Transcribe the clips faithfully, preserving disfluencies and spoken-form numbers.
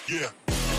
Yeah.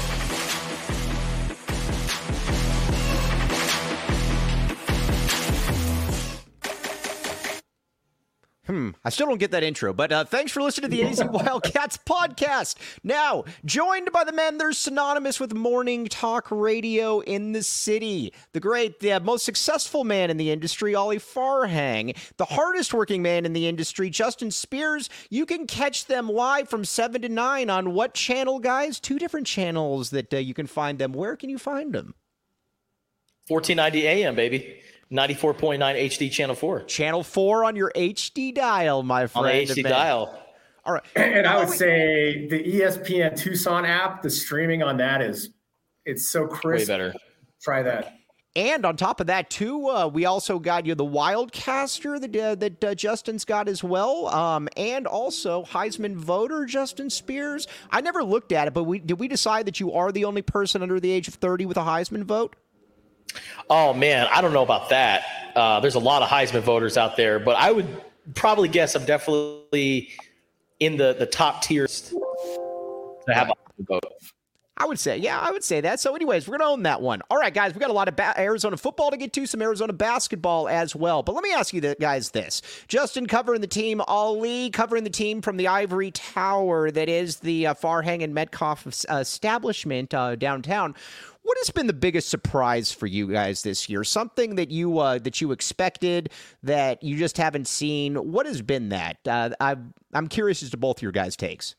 Hmm, I still don't get that intro, but uh, thanks for listening to the A Z Wildcats podcast. Now, joined by the men, they're synonymous with morning talk radio in the city. The great, the most successful man in the industry, Ollie Farhang. The hardest working man in the industry, Justin Spears. You can catch them live from seven to nine on what channel, guys? Two different channels that uh, you can find them. Where can you find them? fourteen ninety A M, baby. ninety-four point nine H D Channel four. Channel four on your H D dial, my friend. On the H D dial. All right. And I would say the E S P N Tucson app, the streaming on that is, it's so crisp. Way better. Try that. And on top of that, too, uh, we also got you the Wildcaster that, uh, that uh, Justin's got as well. Um, and also Heisman voter Justin Spears. I never looked at it, but we did we decide that you are the only person under the age of thirty with a Heisman vote? Oh, man, I don't know about that. Uh, there's a lot of Heisman voters out there, but I would probably guess I'm definitely in the, the top tiers to have a vote. I would say, yeah, I would say that. So anyways, we're going to own that one. All right, guys, we got a lot of ba- Arizona football to get to, some Arizona basketball as well. But let me ask you th- guys this. Justin covering the team, Ali covering the team from the Ivory Tower, that is the uh, Farhang and Metcalf uh, establishment uh, downtown. What has been the biggest surprise for you guys this year? Something that you uh, that you expected that you just haven't seen? What has been that? Uh, I'm, I'm curious as to both your guys' takes.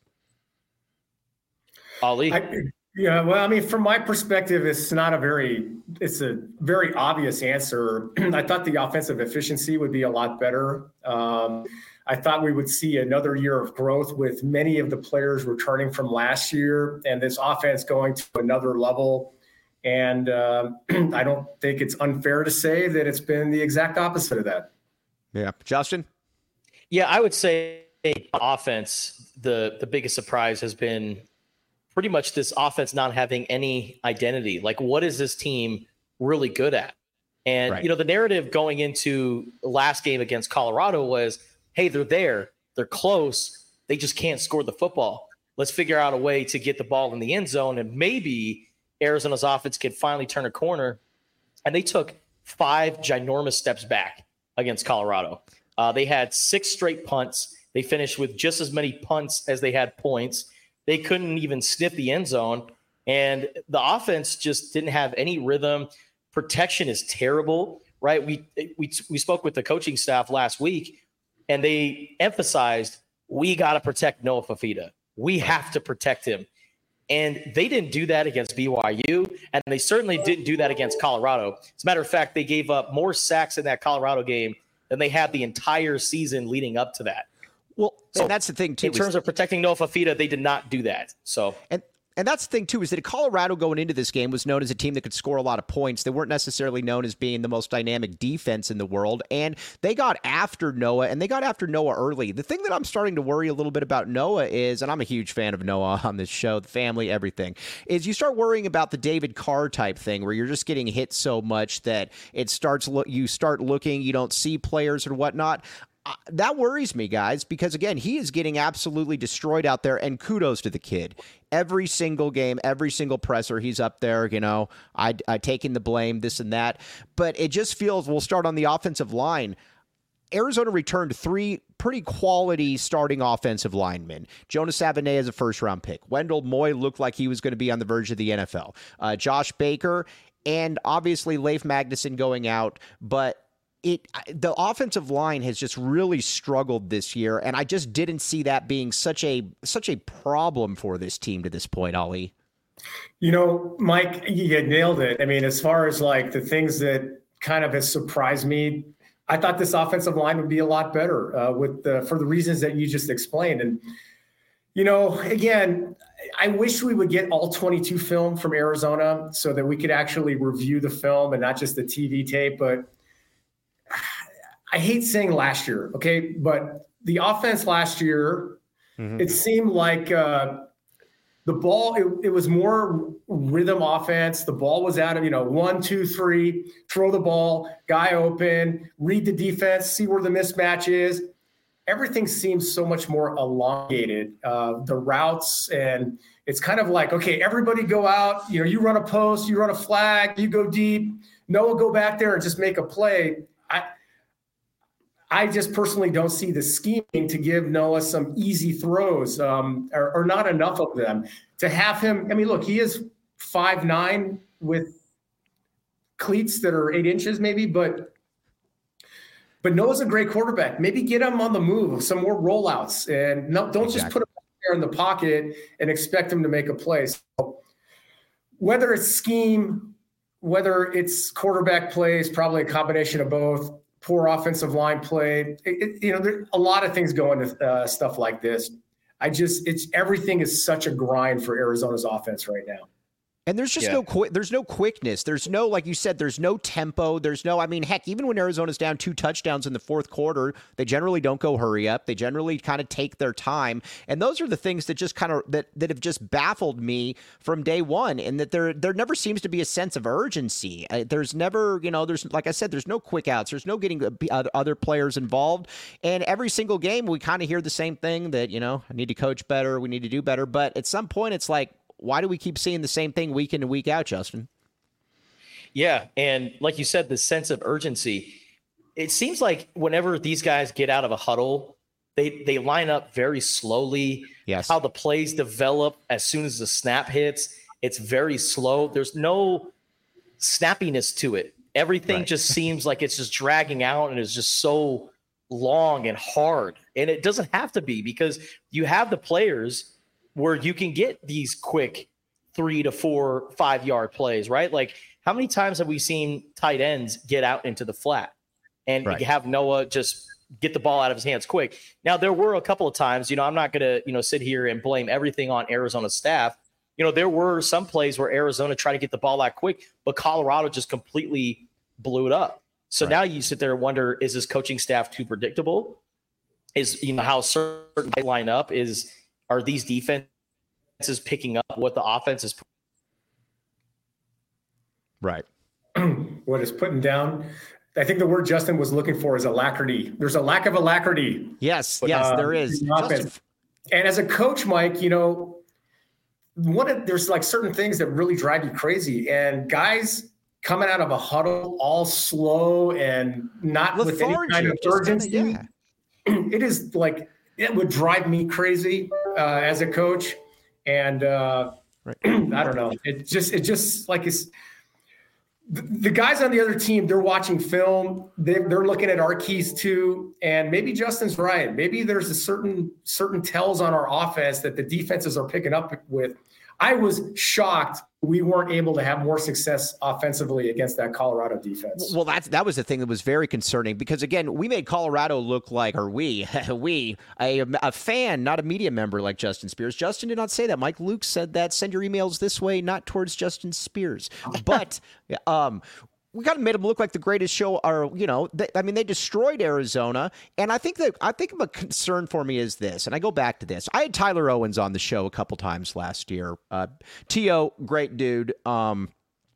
Ali? I, yeah, well, I mean, from my perspective, it's not a very, it's a very obvious answer. I thought the offensive efficiency would be a lot better. Um, I thought we would see another year of growth with many of the players returning from last year and this offense going to another level. And uh, I don't think it's unfair to say that it's been the exact opposite of that. Yeah. Justin? Yeah, I would say offense, the, the biggest surprise has been pretty much this offense not having any identity. Like, what is this team really good at? And, right. you know, the narrative going into the last game against Colorado was, hey, they're there, they're close, they just can't score the football. Let's figure out a way to get the ball in the end zone, and maybe Arizona's offense can finally turn a corner. And they took five ginormous steps back against Colorado. Uh, they had six straight punts. They finished with just as many punts as they had points. They couldn't even sniff the end zone. And the offense just didn't have any rhythm. Protection is terrible, right? We we we spoke with the coaching staff last week, and they emphasized, we got to protect Noah Fafita. We have to protect him. And they didn't do that against B Y U, and they certainly didn't do that against Colorado. As a matter of fact, they gave up more sacks in that Colorado game than they had the entire season leading up to that. Well, so and that's the thing, too. In terms of protecting Noah Fafita, they did not do that. So and And that's the thing, too, is that Colorado going into this game was known as a team that could score a lot of points. They weren't necessarily known as being the most dynamic defense in the world, and they got after Noah, and they got after Noah early. The thing that I'm starting to worry a little bit about Noah is, and I'm a huge fan of Noah on this show, the family, everything, is you start worrying about the David Carr type thing where you're just getting hit so much that it starts lo- you start looking, you don't see players or whatnot. Uh, that worries me, guys, because, again, he is getting absolutely destroyed out there, and kudos to the kid. Every single game, every single presser, he's up there, you know, I, I taking the blame, this and that. But it just feels, we'll start on the offensive line. Arizona returned three pretty quality starting offensive linemen. Jonas Savaiinaea is a first-round pick. Wendell Moy looked like he was going to be on the verge of the N F L. Uh, Josh Baker, and obviously Leif Magnuson going out, but It the offensive line has just really struggled this year, and I just didn't see that being such a such a problem for this team to this point, Ali. You know, Mike, you had nailed it. I mean, as far as like the things that kind of has surprised me, I thought this offensive line would be a lot better uh, with the, for the reasons that you just explained. And you know, again, I wish we would get all twenty-two film from Arizona so that we could actually review the film and not just the T V tape, but I hate saying last year, okay, but the offense last year, mm-hmm. it seemed like uh, the ball, it, it was more rhythm offense. The ball was out of, you know, one, two, three, throw the ball, guy open, read the defense, see where the mismatch is. everything seems so much more elongated. Uh, the routes, and it's kind of like, okay, everybody go out. You know, you run a post, you run a flag, you go deep. Noah, go back there and just make a play. I, I just personally don't see the scheming to give Noah some easy throws, um, or, or not enough of them. To have him, I mean, look, he is five nine with cleats that are eight inches maybe, but but Noah's a great quarterback. Maybe get him on the move, some more rollouts, and no, don't exactly. just put him there in the pocket and expect him to make a play. So whether it's scheme, whether it's quarterback plays, probably a combination of both. Poor offensive line play. It, it, you know, there a lot of things go into uh, stuff like this. I just, it's everything is such a grind for Arizona's offense right now. And there's just yeah. no quick. There's no quickness. There's no, like you said, there's no tempo. There's no, I mean, heck, even when Arizona's down two touchdowns in the fourth quarter, they generally don't go hurry up. They generally kind of take their time. And those are the things that just kind of, that, that have just baffled me from day one. And that there, there never seems to be a sense of urgency. Uh, there's never, you know, there's, like I said, there's no quick outs. There's no getting other players involved. And every single game, we kind of hear the same thing that, you know, I need to coach better. We need to do better. But at some point, it's like, why do we keep seeing the same thing week in and week out, Justin? Yeah, and like you said, the sense of urgency. It seems like whenever these guys get out of a huddle, they they line up very slowly. Yes. How the plays develop as soon as the snap hits, it's very slow. There's no snappiness to it. Everything right. just seems like it's just dragging out and is just so long and hard. And it doesn't have to be, because you have the players where you can get these quick three to four, five yard plays, right? Like, how many times have we seen tight ends get out into the flat and right. have Noah just get the ball out of his hands quick? Now, there were a couple of times, you know, I'm not going to, you know, sit here and blame everything on Arizona's staff. You know, there were some plays where Arizona tried to get the ball out quick, but Colorado just completely blew it up. So right. now you sit there and wonder, is this coaching staff too predictable? Is, you know, how certain they line up is, are these defenses picking up what the offense is? Right. What is putting down? I think the word Justin was looking for is alacrity. There's a lack of alacrity. Yes, yes, uh, there is. And as a coach, Mike, you know, one of, there's like certain things that really drive you crazy. And guys coming out of a huddle all slow and not Lethargic, with any kind of urgency. Kinda, yeah. It is like, it would drive me crazy uh, as a coach. And uh, right. I don't know. It just, it just like it's the, the guys on the other team, they're watching film. They, they're looking at our keys too. And maybe Justin's right. Maybe there's a certain, certain tells on our offense that the defenses are picking up with. I was shocked we weren't able to have more success offensively against that Colorado defense. Well, that's, that was the thing that was very concerning, because, again, we made Colorado look like, or we, we, a, a fan, not a media member like Justin Spears. Justin did not say that. Mike Luke said that. Send your emails this way, not towards Justin Spears. But um, we kind of made them look like the greatest show, or, you know, they, I mean, they destroyed Arizona. And I think that, I think a concern for me is this, and I go back to this. I had Tyler Owens on the show a couple times last year. Uh, T O, great dude. Um,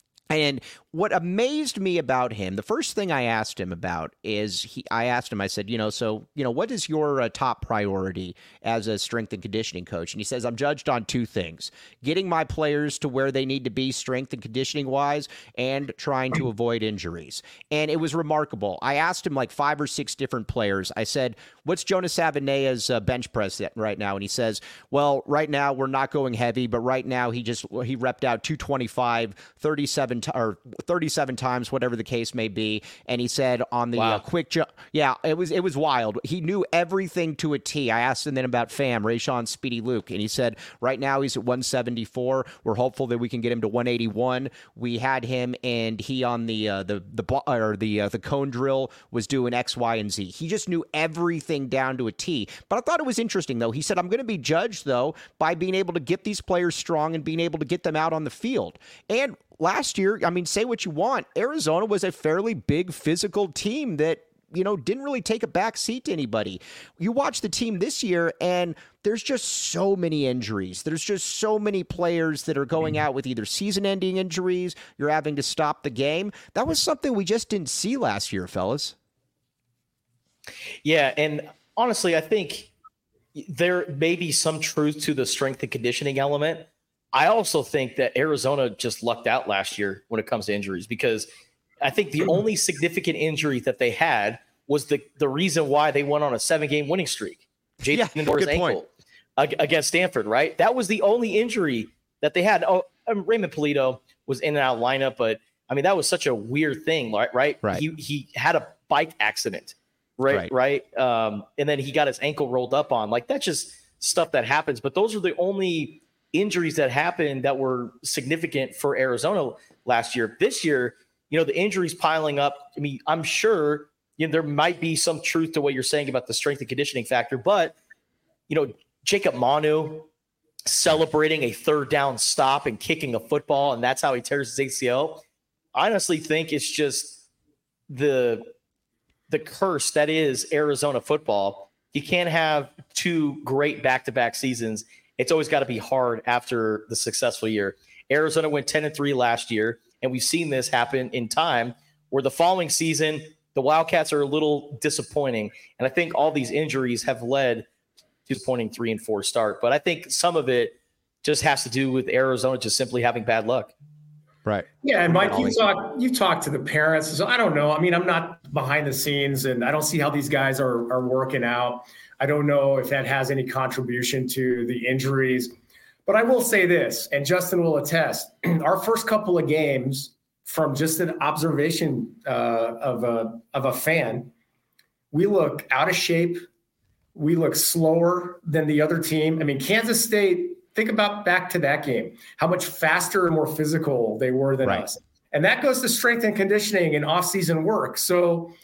and what amazed me about him, the first thing I asked him about is he, I asked him, I said, you know, so, you know, what is your uh, top priority as a strength and conditioning coach? And he says, I'm judged on two things: getting my players to where they need to be strength and conditioning wise, and trying to avoid injuries. And it was remarkable. I asked him like five or six different players. I said, what's Jonas Savanea's uh, bench press right now? And he says, well, right now we're not going heavy, but right now he just, he repped out two twenty-five, thirty-seven, t- or thirty-seven times, whatever the case may be. And he said on the wow. uh, quick jump, yeah, it was, it was wild. He knew everything to a T. I asked him then about Fam, Rayshon Speedy Luke, and he said right now he's at one seventy-four. We're hopeful that we can get him to one eighty-one. We had him, and he on the uh, the the or the uh, the cone drill was doing X, Y, and Z. He just knew everything down to a T. But I thought it was interesting, though. He said, I'm going to be judged, though, by being able to get these players strong and being able to get them out on the field. And last year, I mean, say what you want, Arizona was a fairly big physical team that, you know, didn't really take a back seat to anybody. You watch the team this year, and there's just so many injuries. There's just so many players that are going out with either season-ending injuries, you're having to stop the game. That was something we just didn't see last year, fellas. Yeah, and honestly, I think there may be some truth to the strength and conditioning element. I also think that Arizona just lucked out last year when it comes to injuries, because I think the only significant injury that they had was the, the reason why they went on a seven game winning streak. Jaden Yeah, Lindor's good ankle point. against Stanford, right? That was the only injury that they had. Oh, um, Raymond Polito was in and out lineup, but I mean, that was such a weird thing, right? Right. Right. He, he had a bike accident, right? Right. right? Um, and then he got his ankle rolled up on. Like, that's just stuff that happens. But those are the only injuries that happened that were significant for Arizona last year. This year, you know, the injuries piling up. I mean, I'm sure, you know, there might be some truth to what you're saying about the strength and conditioning factor, but, you know, Jacob Manu celebrating a third down stop and kicking a football, and that's how he tears his A C L. I honestly think it's just the the curse that is Arizona football. You can't have two great back-to-back seasons. It's always got to be hard after the successful year. Arizona went ten and three last year, and we've seen this happen in time where the following season, the Wildcats are a little disappointing. And I think all these injuries have led to disappointing three and four start. But I think some of it just has to do with Arizona just simply having bad luck. Right. Yeah, and Mike, you talk you talk to the parents. So I don't know. I mean, I'm not behind the scenes, and I don't see how these guys are are working out. I don't know if that has any contribution to the injuries. But I will say this, and Justin will attest, our first couple of games, from just an observation uh, of a of a fan, we look out of shape. We look slower than the other team. I mean, Kansas State, think about back to that game, how much faster and more physical they were than right. us. And that goes to strength and conditioning and off-season work. So,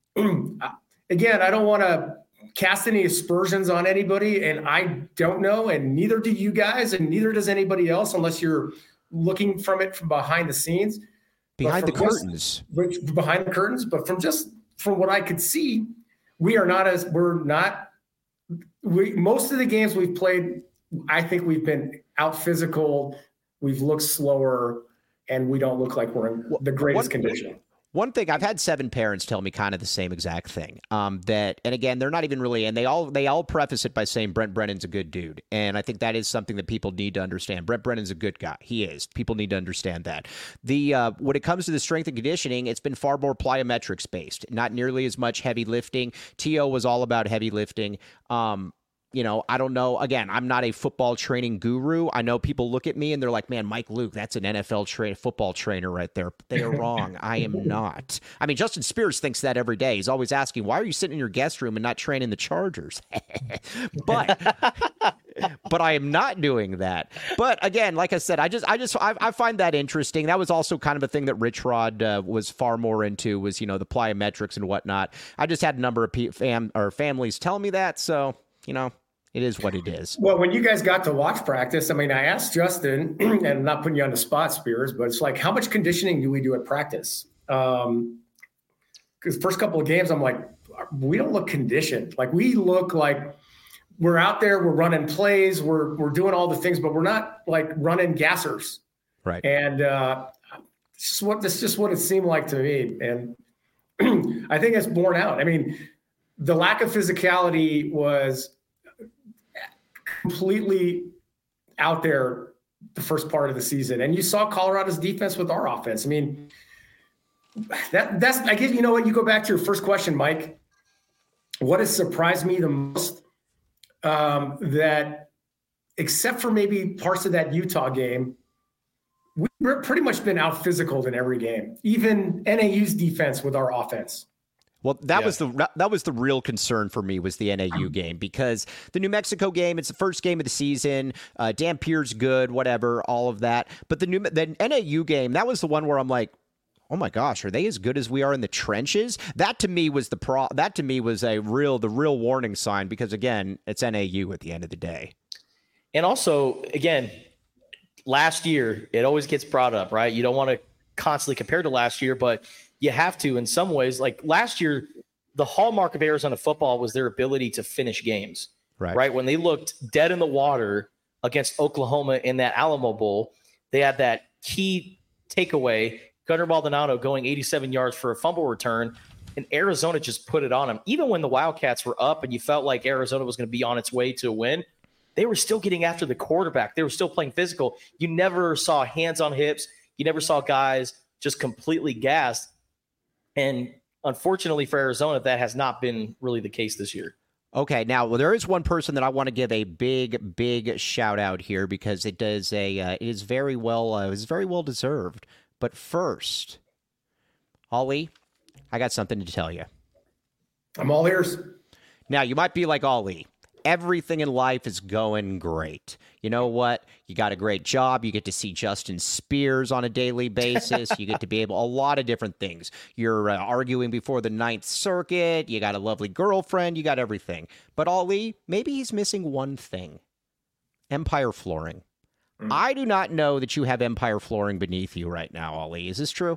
again, I don't want to cast any aspersions on anybody, and I don't know, and neither do you guys, and neither does anybody else unless you're looking from it from behind the scenes. Behind the just, curtains. Behind the curtains. But from just from what I could see, we are not as, we're not, we most of the games we've played, I think we've been out physical, we've looked slower, and we don't look like we're in the greatest one, condition. One thing, I've had seven parents tell me kind of the same exact thing. Um, that, and again, they're not even really, and they all they all preface it by saying Brent Brennan's a good dude, and I think that is something that people need to understand. Brent Brennan's a good guy. He is. People need to understand that. The uh, when it comes to the strength and conditioning, it's been far more plyometrics based, not nearly as much heavy lifting. T O was all about heavy lifting. Um, You know, I don't know. Again, I'm not a football training guru. I know people look at me and they're like, man, Mike Luke, that's an N F L tra- football trainer right there. They are wrong. I am not. I mean, Justin Spears thinks that every day. He's always asking, why are you sitting in your guest room and not training the Chargers? but but I am not doing that. But again, like I said, I just I just I, I find that interesting. That was also kind of a thing that Rich Rod uh, was far more into, was, you know, the plyometrics and whatnot. I just had a number of pe- fam- or families tell me that. So, you know, it is what it is. Well, when you guys got to watch practice, I mean, I asked Justin, and I'm not putting you on the spot, Spears, but it's like, how much conditioning do we do at practice? Um, because first couple of games, I'm like, we don't look conditioned. Like, we look like we're out there, we're running plays, we're we're doing all the things, but we're not like running gassers. Right. And uh, this is what this is just what it seemed like to me, and I think it's borne out. I mean, the lack of physicality was completely out there the first part of the season. And you saw Colorado's defense with our offense. I mean, that that's, I guess, you know what, you go back to your first question, Mike, what has surprised me the most, um, that except for maybe parts of that Utah game, we've pretty much been out physical in every game, even N A U's defense with our offense. Well, that yeah. was the that was the real concern for me, was the N A U game, because the New Mexico game, it's the first game of the season. Uh, Dampier's good, whatever, all of that. But the new the N A U game, that was the one where I'm like, oh my gosh, are they as good as we are in the trenches? That to me was the pro. That to me was a real the real warning sign, because again, it's N A U at the end of the day. And also, again, last year, it always gets brought up, right? You don't want to constantly compare to last year, but you have to in some ways. Like last year, the hallmark of Arizona football was their ability to finish games, right? right? When they looked dead in the water against Oklahoma in that Alamo Bowl, they had that key takeaway, Gunnar Maldonado going eighty-seven yards for a fumble return. and Arizona just put it on them. Even when the Wildcats were up and you felt like Arizona was going to be on its way to a win, they were still getting after the quarterback. They were still playing physical. You never saw hands on hips. You never saw guys just completely gassed. And unfortunately for Arizona, that has not been really the case this year. Okay, now well, there is one person that I want to give a big, big shout out here because it does a uh, it is very well uh, it is very well deserved. But first, Ollie, I got something to tell you. I'm all ears. Now you might be like Ollie. Everything in life is going great. You know what? You got a great job. You get to see Justin Spears on a daily basis. You get to be able a lot of different things. You're uh, arguing before the Ninth Circuit. You got a lovely girlfriend. You got everything. But Ollie, maybe he's missing one thing. Empire Flooring. Mm. I do not know that you have Empire Flooring beneath you right now, Ollie. Is this true?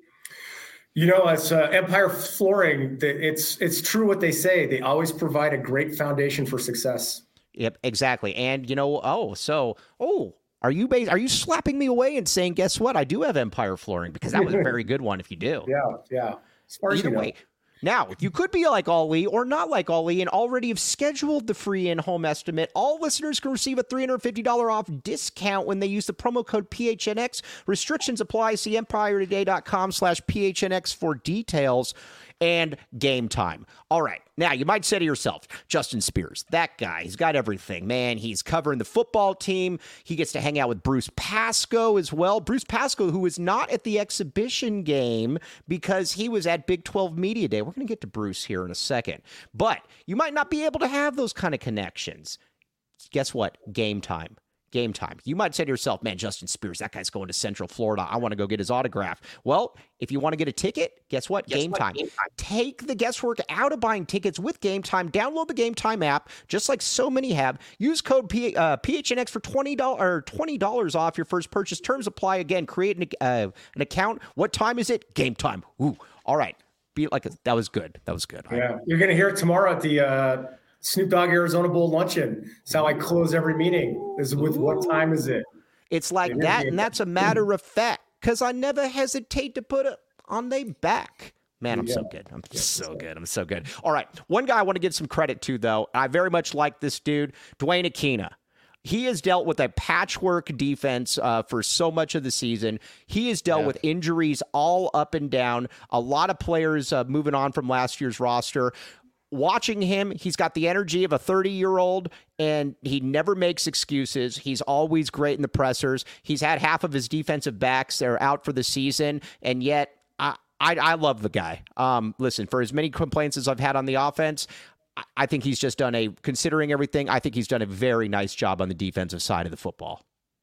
You know, as uh, Empire Flooring, it's it's true what they say. They always provide a great foundation for success. Yep, exactly. And you know, oh, so oh, are you bas- are you slapping me away and saying, guess what? I do have Empire Flooring because that was a very good one. If you do, yeah, yeah. As far as Either you know. way. Now, you could be like Ollie or not like Ollie and already have scheduled the free in-home estimate. All listeners can receive a three hundred fifty dollars off discount when they use the promo code P H N X. Restrictions apply. See empiretoday.com slash PHNX for details. And Game Time. All right. Now, you might say to yourself, Justin Spears, that guy, he's got everything, man. He's covering the football team. He gets to hang out with Bruce Pascoe as well. Bruce Pascoe, who was not at the exhibition game because he was at Big twelve Media Day. We're going to get to Bruce here in a second. But you might not be able to have those kind of connections. Guess what? Game Time. Game Time. You might say to yourself, man, Justin Spears, that guy's going to Central Florida. I want to go get his autograph. Well, if you want to get a ticket, guess what? Guess Game what? Time. Game Time. Take the guesswork out of buying tickets with Game Time. Download the Game Time app, just like so many have. Use code P- uh, P H N X for twenty dollars or twenty dollars off your first purchase. Terms apply. Again, create an, uh, an account. What time is it? Game Time. Ooh, all right. Be like a, that was good. That was good. Yeah, you're going to hear it tomorrow at the uh... Snoop Dogg Arizona Bowl luncheon. It's how I close every meeting. Is with Ooh. What time is it? It's like that, and that's a matter of fact, because I never hesitate to put it on their back. Man, I'm yeah. so good. I'm yeah, so good. I'm so good. All right. One guy I want to give some credit to, though. I very much like this dude, Dwayne Aquina. He has dealt with a patchwork defense uh, for so much of the season. He has dealt yeah. with injuries all up and down. A lot of players uh, moving on from last year's roster. Watching him, he's got the energy of a thirty-year-old, and he never makes excuses. He's always great in the pressers. He's had half of his defensive backs that are out for the season, and yet I I, I love the guy. Um, listen, for as many complaints as I've had on the offense, I, I think he's just done a, considering everything, I think he's done a very nice job on the defensive side of the football.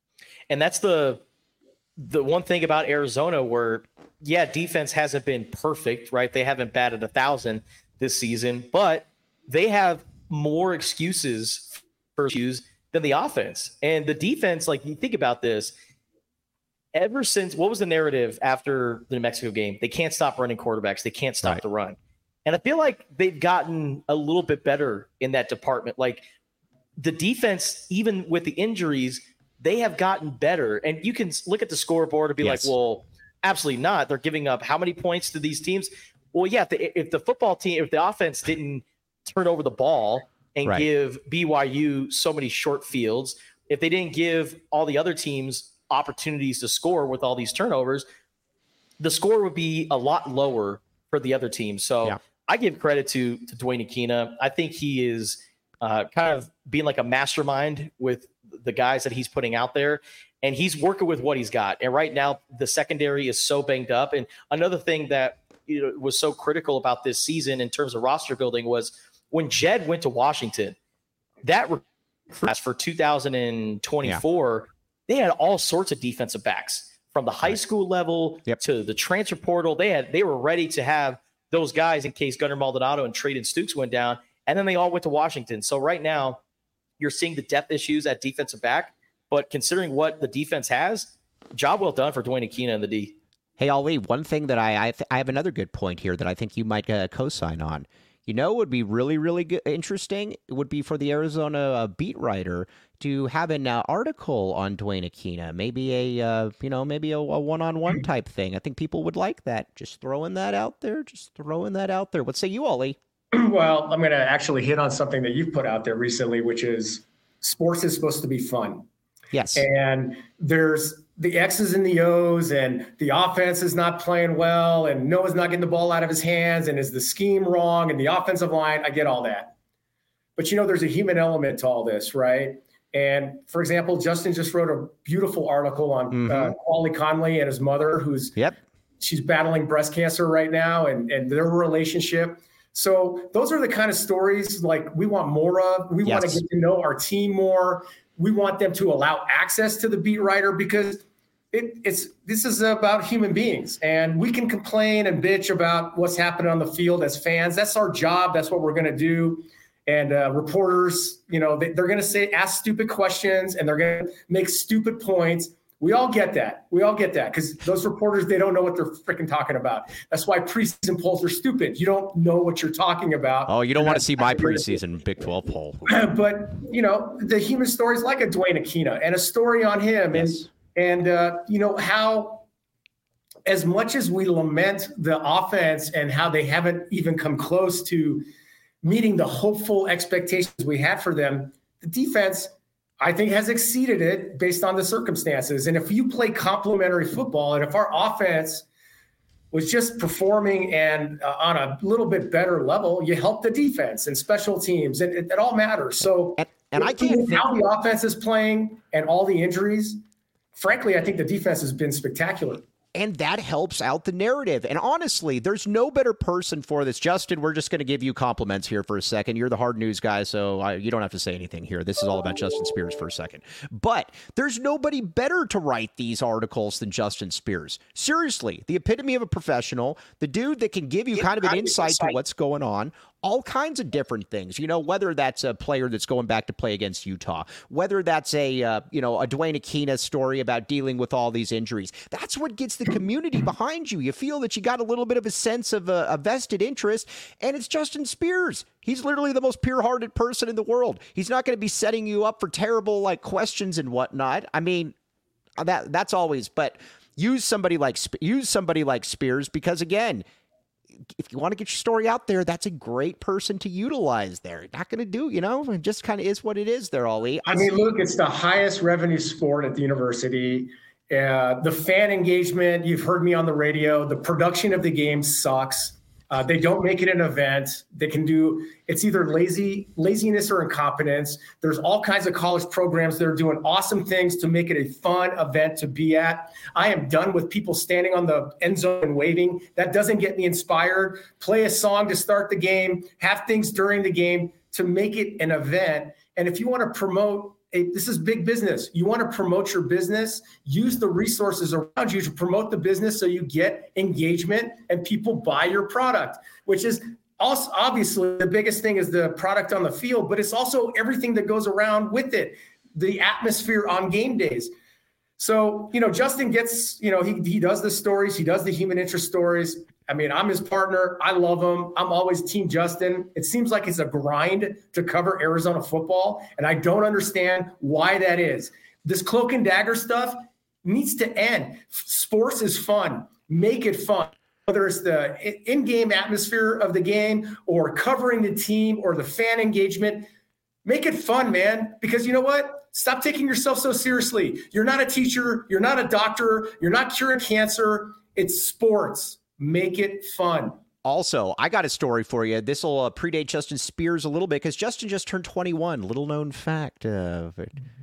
And that's the the one thing about Arizona where, yeah, defense hasn't been perfect, right? They haven't batted a thousand this season, but they have more excuses for issues than the offense. And the defense, like you think about this, ever since, what was the narrative after the New Mexico game? They can't stop running quarterbacks. They can't stop right. the run. And I feel like they've gotten a little bit better in that department. Like the defense, even with the injuries, they have gotten better. And you can look at the scoreboard and be yes. like, well, absolutely not. They're giving up how many points to these teams? Well, yeah, if the, if the football team, if the offense didn't turn over the ball and right. give B Y U so many short fields, if they didn't give all the other teams opportunities to score with all these turnovers, the score would be a lot lower for the other team. So yeah. I give credit to, to Dwayne Aquina. I think he is uh, kind of being like a mastermind with the guys that he's putting out there. And he's working with what he's got. And right now, the secondary is so banged up. And another thing that you know, was so critical about this season in terms of roster building was when Jed went to Washington, that class for two thousand twenty-four, yeah. they had all sorts of defensive backs from the high school level yep. to the transfer portal. They had, they were ready to have those guys in case Gunnar Maldonado and Traden Stukes went down. And then they all went to Washington. So right now you're seeing the depth issues at defensive back, but considering what the defense has, job well done for Dwayne Aquina and the D. Hey, Ali, one thing that I I, th- I have another good point here that I think you might uh, co-sign on. You know, it would be really, really good, interesting. It would be for the Arizona uh, beat writer to have an uh, article on Dwayne Aquina, maybe a, uh, you know, maybe a, a one-on-one type thing. I think people would like that. Just throwing that out there. Just throwing that out there. What say you, Ollie? Well, I'm going to actually hit on something that you've put out there recently, which is sports is supposed to be fun. Yes. And there's the X's and the O's, and the offense is not playing well, and Noah's not getting the ball out of his hands, and is the scheme wrong, and the offensive line, I get all that. But, you know, there's a human element to all this, right? And, for example, Justin just wrote a beautiful article on mm-hmm. uh, Wally Conley and his mother, who's yep. she's battling breast cancer right now, and, and their relationship. So those are the kind of stories like we want more of. We yes. want to get to know our team more. We want them to allow access to the beat writer because it, it's this is about human beings, and we can complain and bitch about what's happening on the field as fans. That's our job. That's what we're going to do. And uh, reporters, you know, they, they're going to say ask stupid questions, and they're going to make stupid points. We all get that. We all get that because those reporters, they don't know what they're freaking talking about. That's why preseason polls are stupid. You don't know what you're talking about. Oh, you don't want to see my preseason Big twelve poll. But, you know, the human stories like a Dwayne Aquina and a story on him. Yes. And, and uh, you know, how as much as we lament the offense and how they haven't even come close to meeting the hopeful expectations we had for them, the defense – I think has exceeded it based on the circumstances. And if you play complementary football, and if our offense was just performing and uh, on a little bit better level, you help the defense and special teams, and it, it all matters. So, and, and I can't think- how the offense is playing and all the injuries, frankly, I think the defense has been spectacular. And that helps out the narrative. And honestly, there's no better person for this. Justin, we're just going to give you compliments here for a second. You're the hard news guy, so I, you don't have to say anything here. This is all about Justin Spears for a second. But there's nobody better to write these articles than Justin Spears. Seriously, the epitome of a professional, the dude that can give you kind of an insight to what's going on. All kinds of different things, you know, whether that's a player that's going back to play against Utah, whether that's a, uh, you know, a Dwayne Aquina story about dealing with all these injuries. That's what gets the community behind you. You feel that you got a little bit of a sense of a, a vested interest, and it's Justin Spears. He's literally the most pure-hearted person in the world. He's not going to be setting you up for terrible, like, questions and whatnot. I mean, that that's always, but use somebody like, use somebody like Spears because, again, if you want to get your story out there, that's a great person to utilize there. Not going to do, you know, it just kind of is what it is there, Ollie. I mean, look, it's the highest revenue sport at the university. Uh, the fan engagement, you've heard me on the radio, the production of the game sucks. Uh, they don't make it an event. They can do, it's either lazy, laziness or incompetence. There's all kinds of college programs that are doing awesome things to make it a fun event to be at. I am done with people standing on the end zone and waving. That doesn't get me inspired. Play a song to start the game, have things during the game to make it an event. And if you want to promote, a, this is big business. You want to promote your business, use the resources around you to promote the business so you get engagement and people buy your product, which is also obviously the biggest thing is the product on the field, but it's also everything that goes around with it, the atmosphere on game days. So, you know, Justin gets, you know, he he does the stories, he does the human interest stories. I mean, I'm his partner. I love him. I'm always Team Justin. It seems like it's a grind to cover Arizona football, and I don't understand why that is. This cloak and dagger stuff needs to end. Sports is fun. Make it fun. Whether it's the in-game atmosphere of the game or covering the team or the fan engagement, make it fun, man. Because you know what? Stop taking yourself so seriously. You're not a teacher. You're not a doctor. You're not curing cancer. It's sports. Make it fun. Also, I got a story for you. This will uh, predate Justin Spears a little bit because Justin just turned twenty-one. Little known fact. Uh,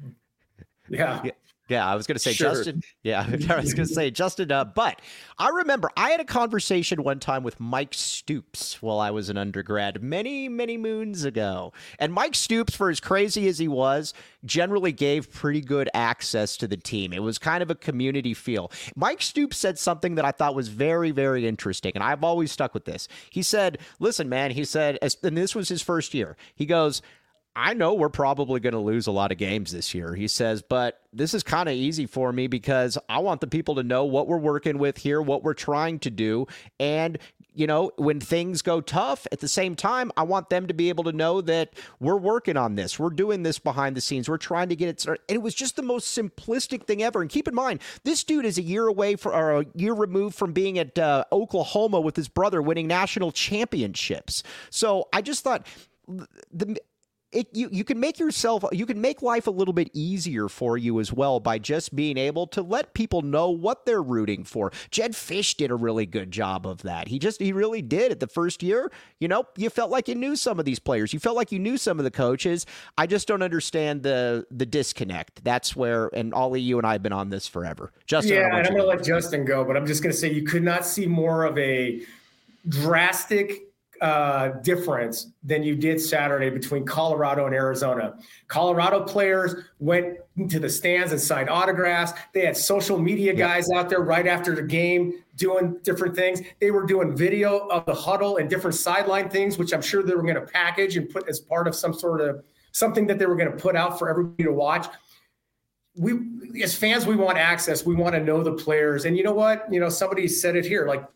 yeah. yeah. Yeah, I was going to say Sure. Justin. Yeah, I was going to say Justin. Uh, but I remember I had a conversation one time with Mike Stoops while I was an undergrad many, many moons ago. And Mike Stoops, for as crazy as he was, generally gave pretty good access to the team. It was kind of a community feel. Mike Stoops said something that I thought was very, very interesting. And I've always stuck with this. He said, listen, man, he said, and this was his first year. He goes, I know we're probably going to lose a lot of games this year, he says, but this is kind of easy for me because I want the people to know what we're working with here, what we're trying to do, and you know, when things go tough, at the same time, I want them to be able to know that we're working on this. We're doing this behind the scenes. We're trying to get it started. And it was just the most simplistic thing ever. And keep in mind, this dude is a year away for, or a year removed from being at uh, Oklahoma with his brother winning national championships. So I just thought the It, you, you can make yourself, you can make life a little bit easier for you as well by just being able to let people know what they're rooting for. Jedd Fisch did a really good job of that. He just, he really did at the first year. You know, you felt like you knew some of these players. You felt like you knew some of the coaches. I just don't understand the the disconnect. That's where, and Ollie, you and I have been on this forever. Justin, yeah, and I'm going to let Justin go, but I'm just going to say you could not see more of a drastic uh, difference than you did Saturday between Colorado and Arizona. Colorado players went into the stands and signed autographs. They had social media guys out there right after the game doing different things. They were doing video of the huddle and different sideline things, which I'm sure they were going to package and put as part of some sort of something that they were going to put out for everybody to watch. We, as fans, we want access. We want to know the players. And you know what? You know, somebody said it here, like,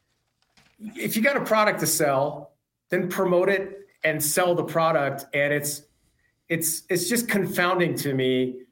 if you got a product to sell, then promote it and sell the product. And it's it's it's just confounding to me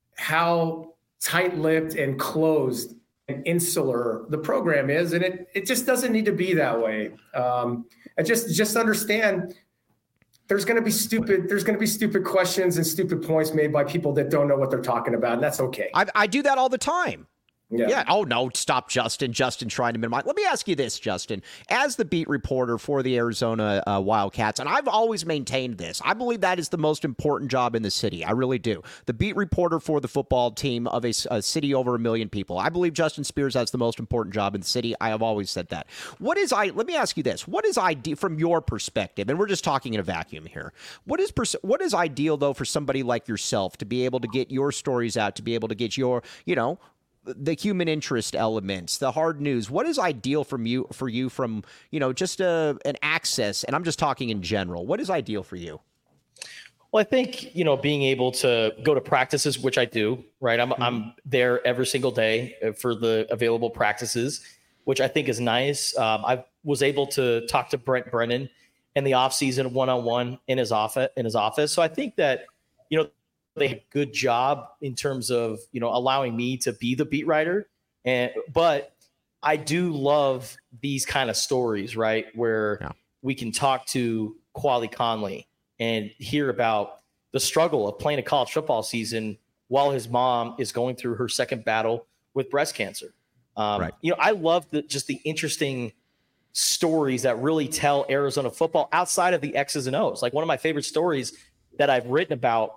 how tight-lipped and closed and insular the program is, and it it just doesn't need to be that way. Um, and just just understand there's going to be stupid there's going to be stupid questions and stupid points made by people that don't know what they're talking about, and that's okay. I, I do that all the time. Yeah. yeah. Oh, no. Stop, Justin. Justin trying to minimize. Let me ask you this, Justin. As the beat reporter for the Arizona uh, Wildcats, and I've always maintained this, I believe that is the most important job in the city. I really do. The beat reporter for the football team of a, a city over a million people. I believe Justin Spears has the most important job in the city. I have always said that. What is I? Let me ask you this. What is ideal from your perspective? And we're just talking in a vacuum here. What is pers- what is ideal, though, for somebody like yourself to be able to get your stories out, to be able to get your, you know, the human interest elements, the hard news? What is ideal from you for you from, you know, just a, an access? And I'm just talking in general. What is ideal for you? Well, I think, you know, being able to go to practices, which I do, right? I'm, mm-hmm. I'm there every single day for the available practices, which I think is nice. Um, I was able to talk to Brent Brennan in the offseason one-on-one in his office, in his office. So I think that, you know, they did a good job in terms of, you know, allowing me to be the beat writer. And, but I do love these kind of stories, right? Where yeah. we can talk to Quali Conley and hear about the struggle of playing a college football season while his mom is going through her second battle with breast cancer. Um, right. You know, I love the, just the interesting stories that really tell Arizona football outside of the X's and O's. Like one of my favorite stories that I've written about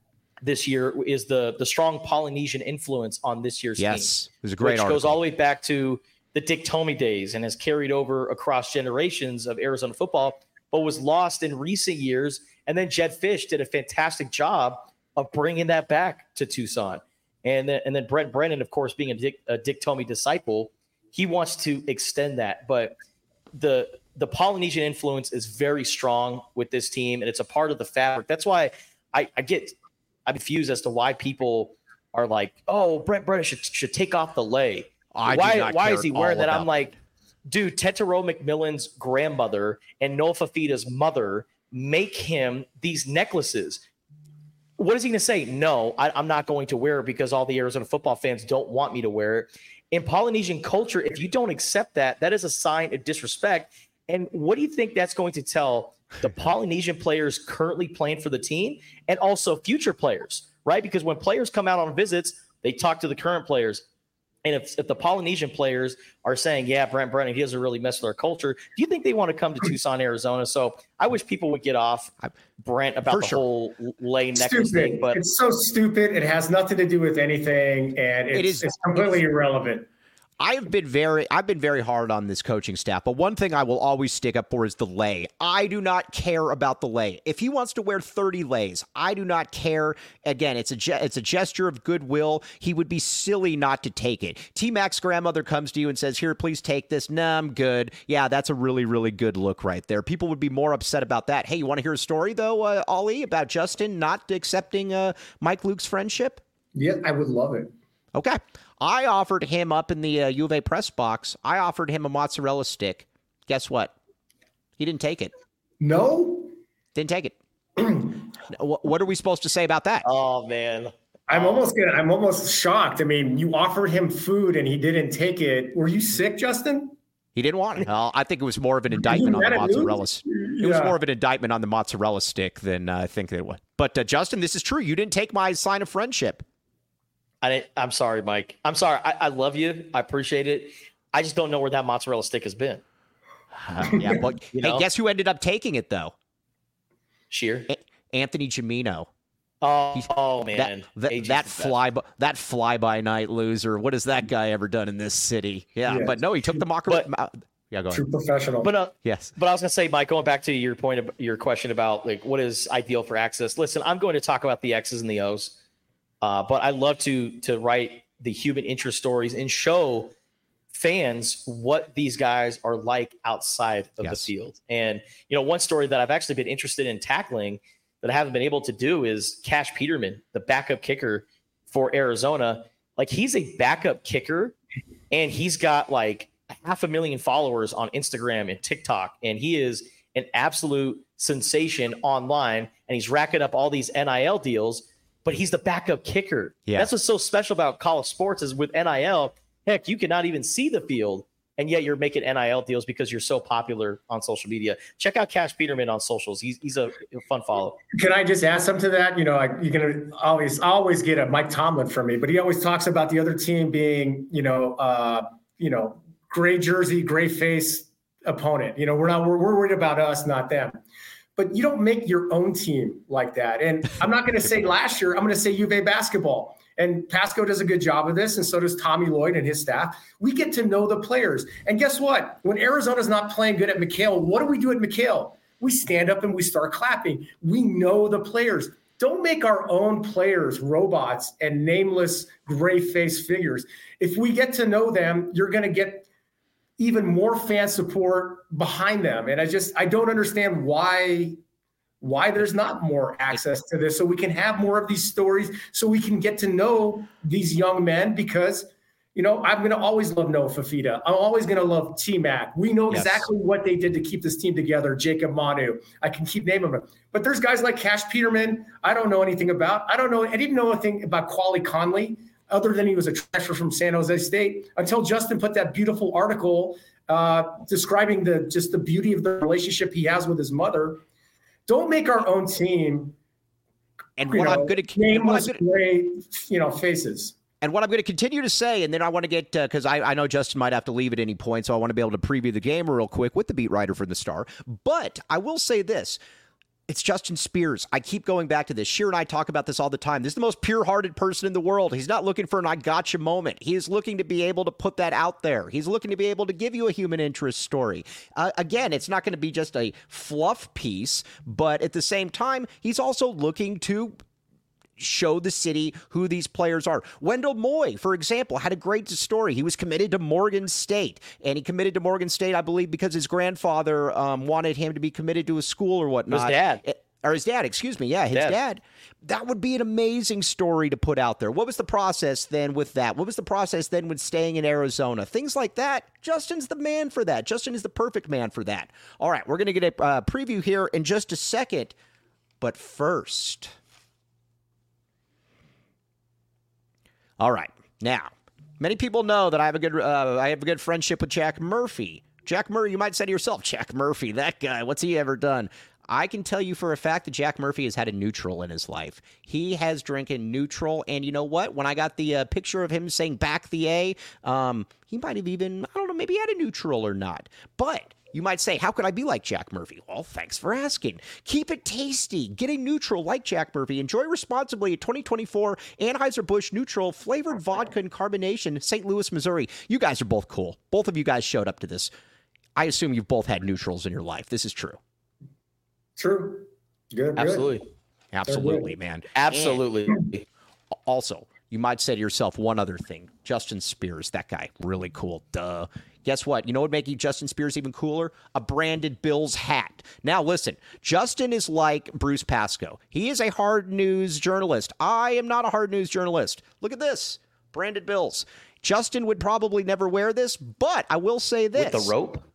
this year is the the strong Polynesian influence on this year's yes, team. Yes, it was a great which article. Goes all the way back to the Dick Tomey days and has carried over across generations of Arizona football, but was lost in recent years. And then Jedd Fisch did a fantastic job of bringing that back to Tucson. And then, and then Brent Brennan, of course, being a Dick, a Dick Tomey disciple, he wants to extend that. But the the Polynesian influence is very strong with this team, and it's a part of the fabric. That's why I, I get – I'm confused as to why people are like, oh, Brent Brennan should should take off the lei. I why why is he wearing that? I'm that. like, dude, Tetero McMillan's grandmother and Noah Fafita's mother make him these necklaces. What is he going to say? No, I, I'm not going to wear it because all the Arizona football fans don't want me to wear it. In Polynesian culture, if you don't accept that, that is a sign of disrespect. And what do you think that's going to tell the Polynesian players currently playing for the team and also future players, right? Because when players come out on visits, they talk to the current players. And if, if the Polynesian players are saying, yeah, Brent Brennan, he doesn't really mess with our culture, do you think they want to come to Tucson, Arizona? So I wish people would get off Brent about for the sure. whole lei necklace stupid. thing. But it's so stupid. It has nothing to do with anything. And it's, it is, it's completely it's, irrelevant. I've been very I've been very hard on this coaching staff, but one thing I will always stick up for is the lei. I do not care about the lei. If he wants to wear thirty leis, I do not care. Again, it's a ge- it's a gesture of goodwill. He would be silly not to take it. T-Mac's grandmother comes to you and says, "Here, please take this." Nah, I'm good. Yeah, that's a really, really good look right there. People would be more upset about that. Hey, you want to hear a story, though, uh, Ollie, about Justin not accepting uh, Mike Luke's friendship? Yeah, I would love it. Okay. I offered him up in the uh, U of A press box, I offered him a mozzarella stick Guess what? He didn't take it. No? Didn't take it. What are we supposed to say about that? Oh, man. I'm almost gonna, I'm almost shocked. I mean, you offered him food and he didn't take it. Were you sick, Justin? He didn't want it. Uh, I think it was more of an indictment on the mozzarella. It yeah. was more of an indictment on the mozzarella stick than uh, I think it was. But uh, Justin, this is true. You didn't take my sign of friendship. I didn't, I'm sorry, Mike. I'm sorry. I, I love you. I appreciate it. I just don't know where that mozzarella stick has been. Uh, yeah, but hey, know? Guess who ended up taking it though? Sheer. A- Anthony Gimino. Oh, oh man, that that, that fly by, that fly by night loser. What has that guy ever done in this city? Yeah, yes. But no, he took the mocker. But, yeah, go ahead. True professional. But uh, yes, but I was gonna say, Mike, going back to your point of your question about like what is ideal for access. Listen, I'm going to talk about the X's and the O's, uh, but I love to to write the human interest stories and show fans what these guys are like outside of yes. the field. And you know, one story that I've actually been interested in tackling that I haven't been able to do is Cash Peterman, the backup kicker for Arizona. Like he's a backup kicker and he's got like half a million followers on Instagram and TikTok. And he is an absolute sensation online and he's racking up all these N I L deals, but he's the backup kicker. Yeah. That's what's so special about college sports is with N I L, heck, you cannot even see the field. And yet you're making N I L deals because you're so popular on social media. Check out Cash Peterman on socials. He's he's a, a fun follow. Can I just add something to that? You know, I, you're going to always always get a Mike Tomlin from me, but he always talks about the other team being, you know, uh, you know, gray jersey, gray face opponent. You know, we're not we're, we're worried about us, not them. But you don't make your own team like that. And I'm not going to say last year. I'm going to say U V A basketball. And Pasco does a good job of this, and so does Tommy Lloyd and his staff. We get to know the players. And guess what? When Arizona's not playing good at McHale, what do we do at McHale? We stand up and we start clapping. We know the players. Don't make our own players robots and nameless gray-faced figures. If we get to know them, you're going to get even more fan support behind them. And I just I don't understand why – why there's not more access to this so we can have more of these stories so we can get to know these young men because, you know, I'm going to always love Noah Fafita. I'm always going to love T-Mac. We know yes. exactly what they did to keep this team together. Jacob Manu. I can keep naming them. But there's guys like Cash Peterman I don't know anything about. I don't know. I didn't know anything about Quali Conley other than he was a transfer from San Jose State until Justin put that beautiful article uh, describing the just the beauty of the relationship he has with his mother. Don't make our own team. And what know, I'm going to nameless gray, you know, faces. And what I'm going to continue to say, and then I want to get because uh, I, I know Justin might have to leave at any point, so I want to be able to preview the game real quick with the beat writer for the Star. But I will say this. It's Justin Spears. I keep going back to this. Sheer and I talk about this all the time. This is the most pure-hearted person in the world. He's not looking for an I gotcha moment. He is looking to be able to put that out there. He's looking to be able to give you a human interest story. Uh, again, it's not going to be just a fluff piece, but at the same time, he's also looking to show the city who these players are. Wendell Moy, for example, had a great story. He was committed to Morgan State, and he committed to Morgan State, I believe, because his grandfather um, wanted him to be committed to a school or whatnot. His dad. It, or his dad, excuse me. Yeah, his dad. dad. That would be an amazing story to put out there. What was the process then with that? What was the process then with staying in Arizona? Things like that. Justin's the man for that. Justin is the perfect man for that. All right, we're going to get a uh, preview here in just a second. But first... All right. Now, many people know that I have a good uh, I have a good friendship with Jack Murphy. Jack Murphy, you might say to yourself, Jack Murphy, that guy, what's he ever done? I can tell you for a fact that Jack Murphy has had a neutral in his life. He has drinking neutral, and you know what? When I got the uh, picture of him saying back the A, um, he might have even, I don't know, maybe had a neutral or not. But you might say, how could I be like Jack Murphy? Well, thanks for asking. Keep it tasty. Get a neutral like Jack Murphy. Enjoy responsibly a twenty twenty-four Anheuser-Busch Neutral flavored vodka and carbonation, Saint Louis, Missouri. You guys are both cool. Both of you guys showed up to this. I assume you've both had neutrals in your life. This is true. True. Good. Absolutely. Good. Absolutely, man. Absolutely. And also, you might say to yourself one other thing. Justin Spears, that guy, really cool. Duh. Guess what? You know what would make Justin Spears even cooler? A branded Bills hat. Now, listen, Justin is like Bruce Pascoe. He is a hard news journalist. I am not a hard news journalist. Look at this. Branded Bills. Justin would probably never wear this, but I will say this. With the rope?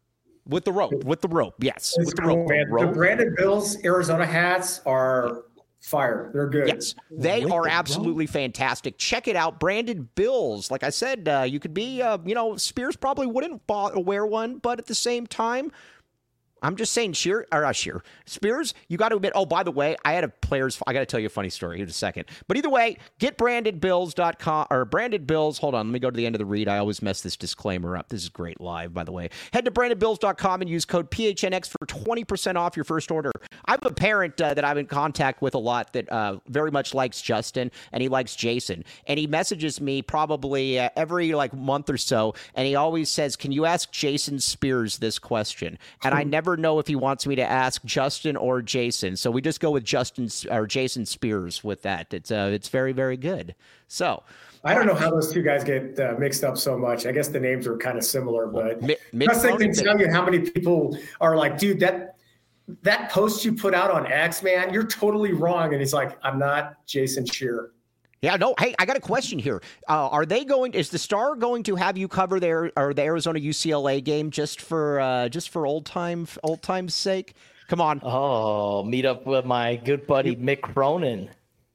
With the rope, with the rope, yes. It's with the cool, rope. man. rope. The branded Bills Arizona hats are fire. They're good. Yes, they With are the absolutely fantastic. Check it out. Branded Bills. Like I said, uh, you could be, uh, you know, Spears probably wouldn't wear one, but at the same time, I'm just saying, Sheer or uh, Sheer Spears, you got to admit. Oh, by the way, I had a players. I got to tell you a funny story in a second. But either way, get branded bills dot com or branded bills. Hold on, let me go to the end of the read. I always mess this disclaimer up. This is great live, by the way. Head to branded bills dot com and use code P H N X for twenty percent off your first order. I have a parent uh, that I'm in contact with a lot that uh, very much likes Justin and he likes Jason, and he messages me probably uh, every like month or so, and he always says, "Can you ask Jason Spears this question?" And I never know if he wants me to ask Justin or Jason, so we just go with Justin or Jason Spears with that. It's uh, it's very very good. So I don't know how those two guys get uh, mixed up so much. I guess the names are kind of similar, but Mi- Justin can tell you how many people are like, dude, that that post you put out on X, man, you're totally wrong. And he's like, I'm not Jason Shearer. Yeah, no. Hey, I got a question here. Uh, are they going? Is the Star going to have you cover their or the Arizona U C L A game just for uh, just for old time old time's sake? Come on. Oh, meet up with my good buddy Mick Cronin,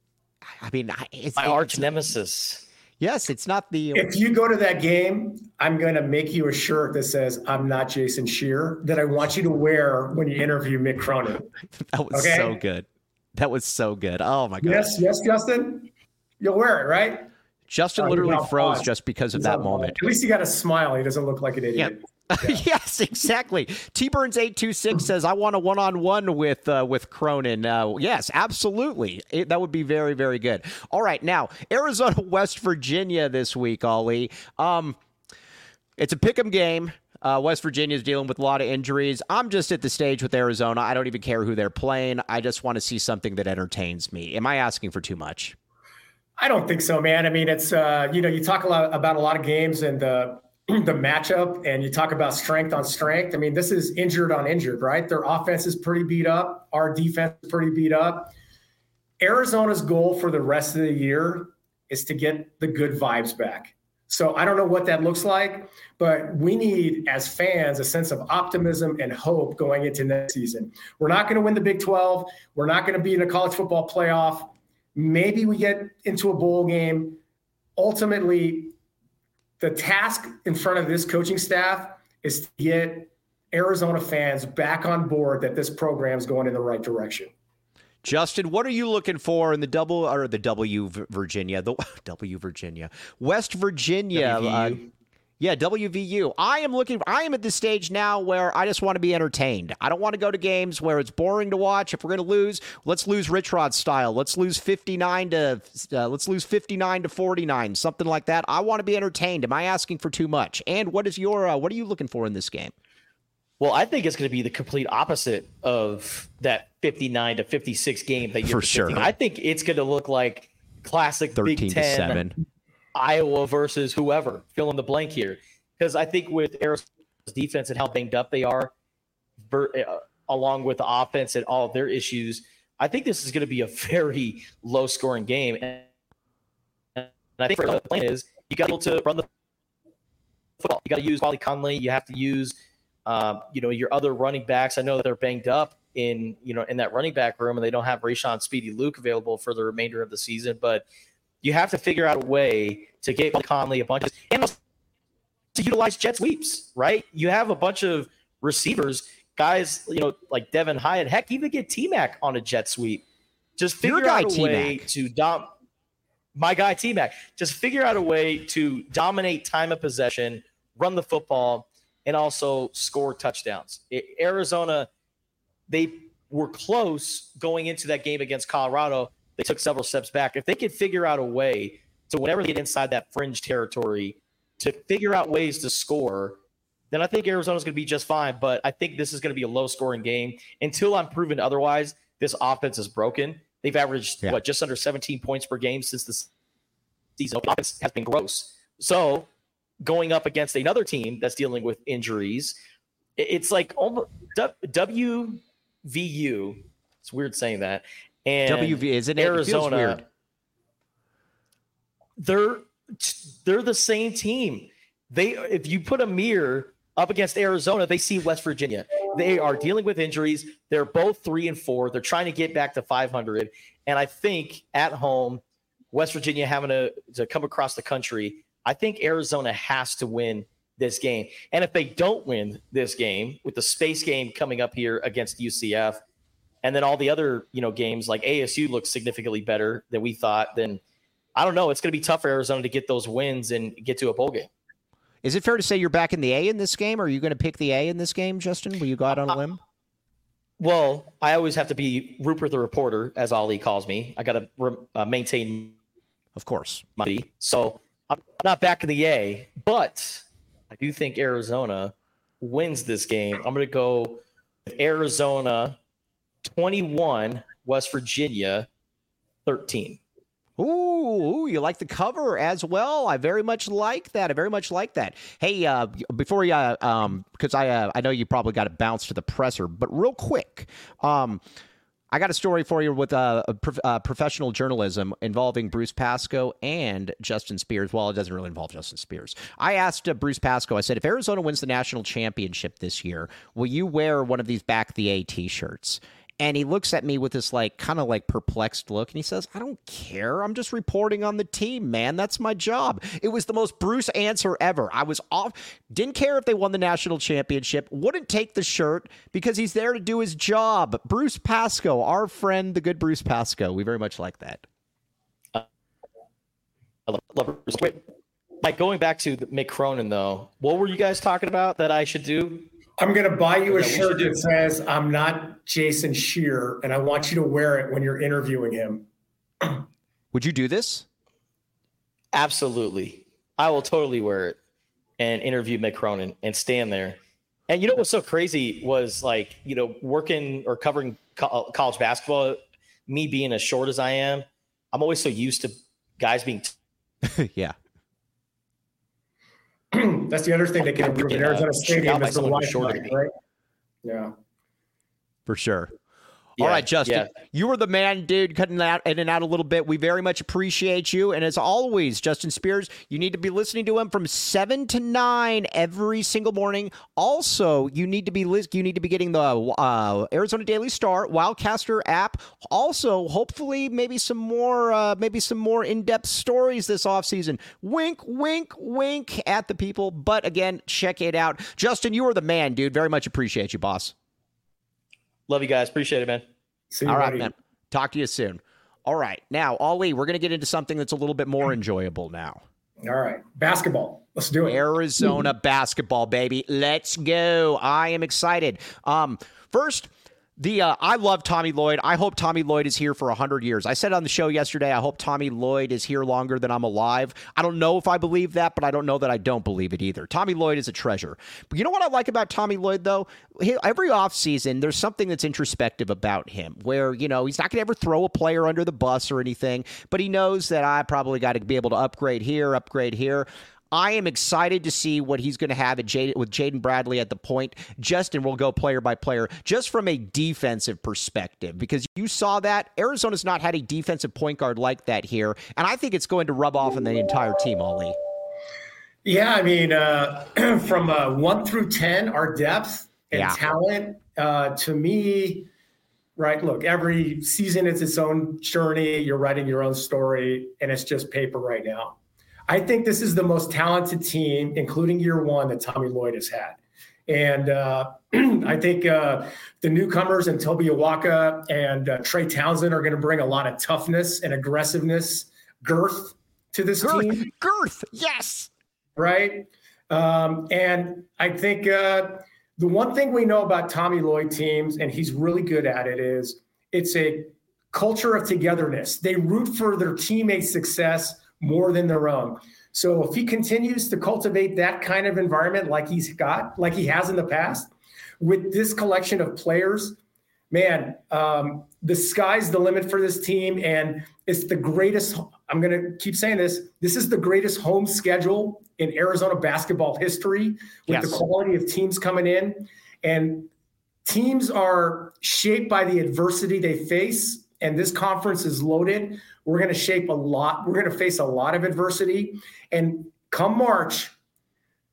I mean, it's my it's, arch nemesis. Yes, it's not the. If you go to that game, I'm going to make you a shirt that says, I'm not Jason Shearer, that I want you to wear when you interview Mick Cronin. That was okay? so good. That was so good. Oh, my God. Yes, yes, Justin? You'll wear it, right? Justin Oh, literally he's froze on just because of He's that on moment. At least he got a smile. He doesn't look like an idiot. Yeah. Yes, exactly. T Burns eight two six says, I want a one-on-one with uh, with Cronin. Uh, yes, absolutely. It, that would be very, very good. All right, now, Arizona, West Virginia this week, Ollie. Um, it's a pick'em game. Uh, West Virginia is dealing with a lot of injuries. I'm just at the stage with Arizona. I don't even care who they're playing. I just want to see something that entertains me. Am I asking for too much? I don't think so, man. I mean, it's, uh, you know, you talk a lot about a lot of games and the the matchup, and you talk about strength on strength. I mean, this is injured on injured, right? Their offense is pretty beat up. Our defense is pretty beat up. Arizona's goal for the rest of the year is to get the good vibes back. So I don't know what that looks like, but we need, as fans, a sense of optimism and hope going into next season. We're not going to win the Big twelve. We're not going to be in a college football playoff. Maybe we get into a bowl game. Ultimately, the task in front of this coaching staff is to get Arizona fans back on board that this program is going in the right direction. Justin, what are you looking for in the double or the W Virginia, the W Virginia, West Virginia? Uh, yeah, W V U. I am looking. I am at this stage now where I just want to be entertained. I don't want to go to games where it's boring to watch. If we're going to lose, let's lose Rich Rod style. Let's lose fifty-nine to uh, let's lose fifty-nine to forty-nine, something like that. I want to be entertained. Am I asking for too much? And what is your uh, what are you looking for in this game? Well, I think it's going to be the complete opposite of that fifty-nine to fifty-six game that you're for sure. I think it's going to look like classic Big Ten, seven. Iowa versus whoever. Fill in the blank here, because I think with Arizona's defense and how banged up they are, ver- uh, along with the offense and all of their issues, I think this is going to be a very low-scoring game. And, and I think for the plan is you got to be able to run the football. You got to use Wally Conley. You have to use. Um, you know, your other running backs. I know that they're banged up in, you know, in that running back room, and they don't have Rayshon Speedy Luke available for the remainder of the season. But you have to figure out a way to get Conley a bunch of, and also to utilize jet sweeps, right? You have a bunch of receivers, guys, you know, like Devin Hyatt. Heck, even get T-Mac on a jet sweep. Just figure guy, out a T-Mac. way to dom. My guy T-Mac. Just figure out a way to dominate time of possession, run the football, and also score touchdowns. It, Arizona, they were close going into that game against Colorado. They took several steps back. If they could figure out a way to, whenever they get inside that fringe territory, to figure out ways to score, then I think Arizona's going to be just fine. But I think this is going to be a low-scoring game. Until I'm proven otherwise, this offense is broken. They've averaged, yeah. what, just under seventeen points per game since the season. The offense has been gross. So going up against another team that's dealing with injuries, it's like almost W V U. It's weird saying that. And W V isn't it? Arizona, it feels weird. They're they're the same team. They if you put a mirror up against Arizona, they see West Virginia. They are dealing with injuries. They're both three and four. They're trying to get back to five hundred. And I think at home, West Virginia having to, to come across the country, I think Arizona has to win this game. And if they don't win this game, with the space game coming up here against U C F, and then all the other, you know, games like A S U looks significantly better than we thought, then I don't know. It's going to be tough for Arizona to get those wins and get to a bowl game. Is it fair to say you're back in the A in this game? Or are you going to pick the A in this game, Justin? Will you go out on a limb? Well, I always have to be Rupert the reporter, as Ali calls me. I got to re- uh, maintain, of course, my so I'm not back in the A, but I do think Arizona wins this game. I'm going to go with Arizona twenty-one, West Virginia thirteen. Ooh, you like the cover as well. I very much like that. I very much like that. Hey, uh, before you, uh, um, because I, uh, I know you probably got to bounce to the presser, but real quick, um, I got a story for you with uh, prof- uh, professional journalism involving Bruce Pascoe and Justin Spears. Well, it doesn't really involve Justin Spears. I asked uh, Bruce Pascoe, I said, if Arizona wins the national championship this year, will you wear one of these Back the A t-shirts? And he looks at me with this like kind of like perplexed look, and he says, I don't care. I'm just reporting on the team, man. That's my job. It was the most Bruce answer ever. I was off. Didn't care if they won the national championship. Wouldn't take the shirt because he's there to do his job. Bruce Pascoe, our friend, the good Bruce Pascoe. We very much like that. Uh, I love, love Bruce. Wait, Mike, going back to Mick Cronin, though, what were you guys talking about that I should do? I'm going to buy you a shirt that says, I'm not Jason Scheer, and I want you to wear it when you're interviewing him. Would you do this? Absolutely. I will totally wear it and interview Mick Cronin and stand there. And you know what's so crazy was, like, you know, working or covering co- college basketball, me being as short as I am, I'm always so used to guys being t- yeah. That's the other thing they can improve in Arizona Stadium is the Wi-Fi, right? Yeah. For sure. Yeah, all right, Justin, yeah. You were the man, dude, cutting that in and out a little bit. We very much appreciate you. And as always, Justin Spears, you need to be listening to him from seven to nine every single morning. Also, you need to be li- you need to be getting the uh, Arizona Daily Star Wildcaster app. Also, hopefully, maybe some more uh, maybe some more in-depth stories this offseason. Wink, wink, wink at the people. But again, check it out. Justin, you are the man, dude. Very much appreciate you, boss. Love you guys. Appreciate it, man. See you, All right, buddy. man. Talk to you soon. All right. Now, Ali, we're going to get into something that's a little bit more enjoyable now. All right. Basketball. Let's do it. Arizona basketball, baby. Let's go. I am excited. Um, first, the uh, I love Tommy Lloyd. I hope Tommy Lloyd is here for one hundred years. I said on the show yesterday, I hope Tommy Lloyd is here longer than I'm alive. I don't know if I believe that, but I don't know that I don't believe it either. Tommy Lloyd is a treasure. But you know what I like about Tommy Lloyd, though? He, every offseason, there's something that's introspective about him where, you know, he's not going to ever throw a player under the bus or anything, but he knows that I probably got to be able to upgrade here, upgrade here. I am excited to see what he's going to have at Jay, with Jaden Bradley at the point. Justin will go player by player just from a defensive perspective, because you saw that Arizona's not had a defensive point guard like that here, and I think it's going to rub off on the entire team, Ali. Yeah, I mean, uh, from uh, one through ten, our depth and Yeah. talent, uh, to me, right, look, every season is its own journey. You're writing your own story, and it's just paper right now. I think this is the most talented team, including year one, that Tommy Lloyd has had. And uh, I think uh, the newcomers and Toby Awaka and uh, Trey Townsend are going to bring a lot of toughness and aggressiveness, girth to this Girth, team. girth, yes. Right? Um, and I think uh, the one thing we know about Tommy Lloyd teams, and he's really good at it, is it's a culture of togetherness. They root for their teammates' success more than their own. So if he continues to cultivate that kind of environment like he's got, like he has in the past, with this collection of players, man, um, the sky's the limit for this team. And it's the greatest, I'm going to keep saying this, this is the greatest home schedule in Arizona basketball history, with Yes. the quality of teams coming in. And teams are shaped by the adversity they face. And this conference is loaded. We're going to shape a lot. We're going to face a lot of adversity. And come March,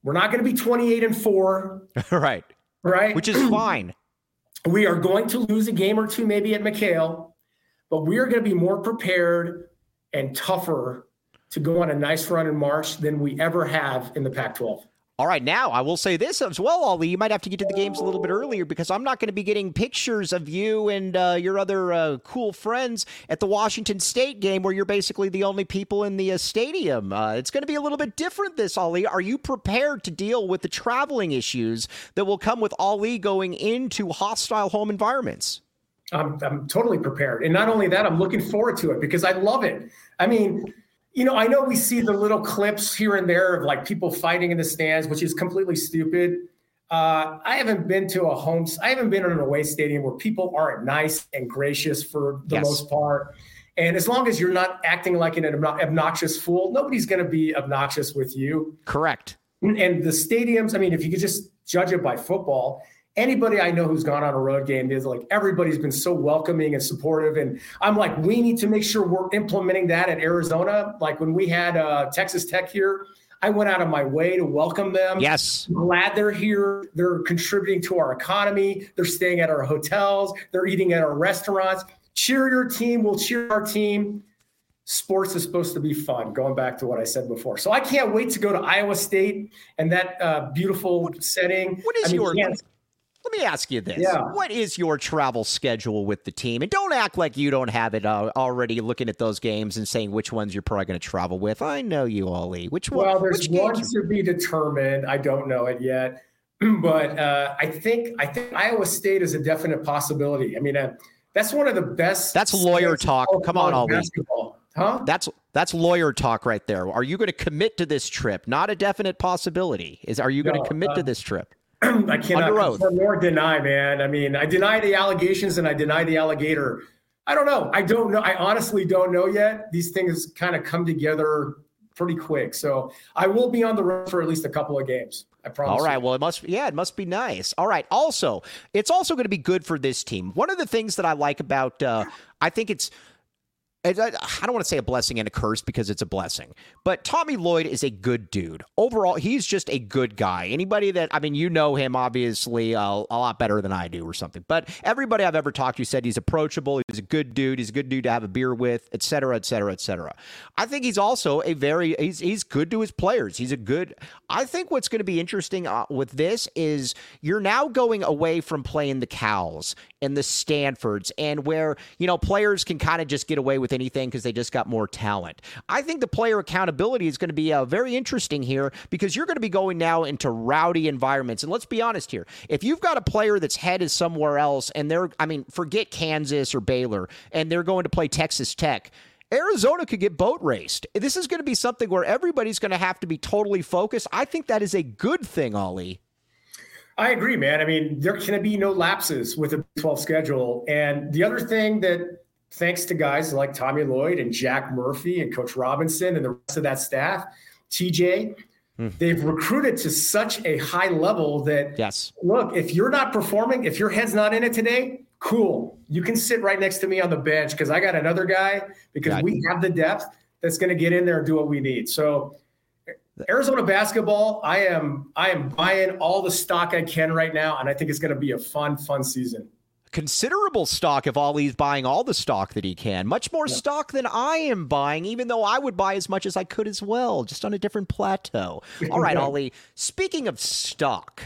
We're not going to be twenty-eight and four. Right. Right. Which is fine. We are going to lose a game or two maybe at McHale, but we are going to be more prepared and tougher to go on a nice run in March than we ever have in the Pac twelve. All right, now I will say this as well, Ollie. You might have to get to the games a little bit earlier because I'm not going to be getting pictures of you and uh, your other uh, cool friends at the Washington State game where you're basically the only people in the uh, stadium. Uh, it's going to be a little bit different this, Ollie. Are you prepared to deal with the traveling issues that will come with Ollie going into hostile home environments? I'm, I'm totally prepared. And not only that, I'm looking forward to it because I love it. I mean, you know, I know we see the little clips here and there of like people fighting in the stands, which is completely stupid. Uh, I haven't been to a home, I haven't been in an away stadium where people aren't nice and gracious for the Yes. most part. And as long as you're not acting like an obnoxious fool, nobody's going to be obnoxious with you. Correct. And the stadiums, I mean, if you could just judge it by football, anybody I know who's gone on a road game is like, everybody's been so welcoming and supportive. And I'm like, we need to make sure we're implementing that in Arizona. Like when we had uh, Texas Tech here, I went out of my way to welcome them. Yes. I'm glad they're here. They're contributing to our economy. They're staying at our hotels. They're eating at our restaurants. Cheer your team. We'll cheer our team. Sports is supposed to be fun, going back to what I said before. So I can't wait to go to Iowa State and that uh, beautiful setting. What is I mean, your... Kansas- Let me ask you this. Yeah. What is your travel schedule with the team? And don't act like you don't have it uh, already looking at those games and saying which ones you're probably going to travel with. I know you, Ollie. Which one? Well, there's which one games? to be determined. I don't know it yet. But uh, I think I think Iowa State is a definite possibility. I mean, uh, that's one of the best. That's lawyer talk. Come on, Ollie. Basketball. Huh? That's that's lawyer talk right there. Are you going to commit to this trip? Not a definite possibility. Is Are you going No, to commit uh, to this trip? I cannot Under oath. confirm nor deny, man. I mean, I deny the allegations and I deny the alligator. I don't know. I don't know. I honestly don't know yet. These things kind of come together pretty quick. So I will be on the road for at least a couple of games. I promise. All right. you. Well, it must. Yeah, it must be nice. All right. Also, it's also going to be good for this team. One of the things that I like about, uh, I think it's. I don't want to say a blessing and a curse because it's a blessing, but Tommy Lloyd is a good dude. Overall, he's just a good guy. Anybody that, I mean, you know him obviously uh, a lot better than I do or something, but everybody I've ever talked to said he's approachable. He's a good dude. He's a good dude to have a beer with, et cetera, et cetera, et cetera. I think he's also a very, he's, he's good to his players. He's a good, I think what's going to be interesting uh, with this is you're now going away from playing the Cals and the Stanfords and where, you know, players can kind of just get away with anything because they just got more talent. I think the player accountability is going to be uh, very interesting here because you're going to be going now into rowdy environments. And let's be honest here. If you've got a player that's head is somewhere else and they're, I mean, forget Kansas or Baylor and they're going to play Texas Tech, Arizona could get boat raced. This is going to be something where everybody's going to have to be totally focused. I think that is a good thing, Ollie. I agree, man. I mean, there can be no lapses with a Big twelve schedule. And the other thing that, thanks to guys like Tommy Lloyd and Jack Murphy and Coach Robinson and the rest of that staff, T J, mm. they've recruited to such a high level that, yes. Look, if you're not performing, if your head's not in it today, cool. You can sit right next to me on the bench because I got another guy because God. we have the depth that's going to get in there and do what we need. So Arizona basketball, I am I am buying all the stock I can right now, and I think it's going to be a fun, fun season. Considerable stock if Ollie's buying all the stock that he can. Much more yeah. stock than I am buying, even though I would buy as much as I could as well, just on a different plateau. All right, Ollie, speaking of stock,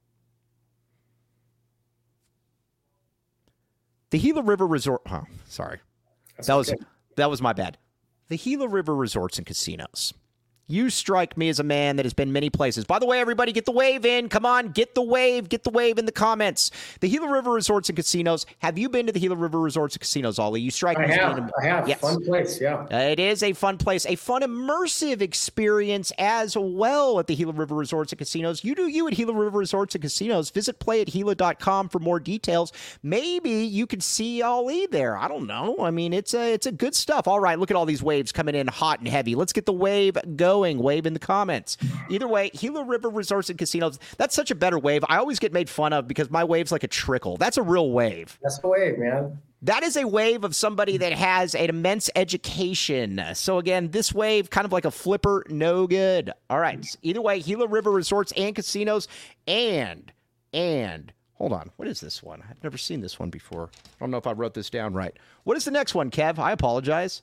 the Gila River Resort, oh, sorry. That's that okay. was that was my bad. The Gila River Resorts and Casinos. You strike me as a man that has been many places. By the way, everybody, get the wave in. Come on, get the wave. Get the wave in the comments. The Gila River Resorts and Casinos. Have you been to the Gila River Resorts and Casinos, Ollie? You strike I me have, as being I have. Yes. Fun place, yeah. Uh, it is a fun place. A fun, immersive experience as well at the Gila River Resorts and Casinos. You do you at Gila River Resorts and Casinos. Visit play at gila dot com for more details. Maybe you could see Ollie there. I don't know. I mean, it's a, it's a good stuff. All right, look at all these waves coming in hot and heavy. Let's get the wave going. Wave in the comments. Comments. Either way, Gila River Resorts and Casinos, that's such a better wave. I always get made fun of because my wave's like a trickle. That's a real wave. That's the wave, man. That is a wave of somebody that has an immense education. So again, this wave, kind of like a flipper, no good. All right. Either way, Gila River Resorts and Casinos and, and, hold on. What is this one? I've never seen this one before. I don't know if I wrote this down right. What is the next one, Kev? I apologize.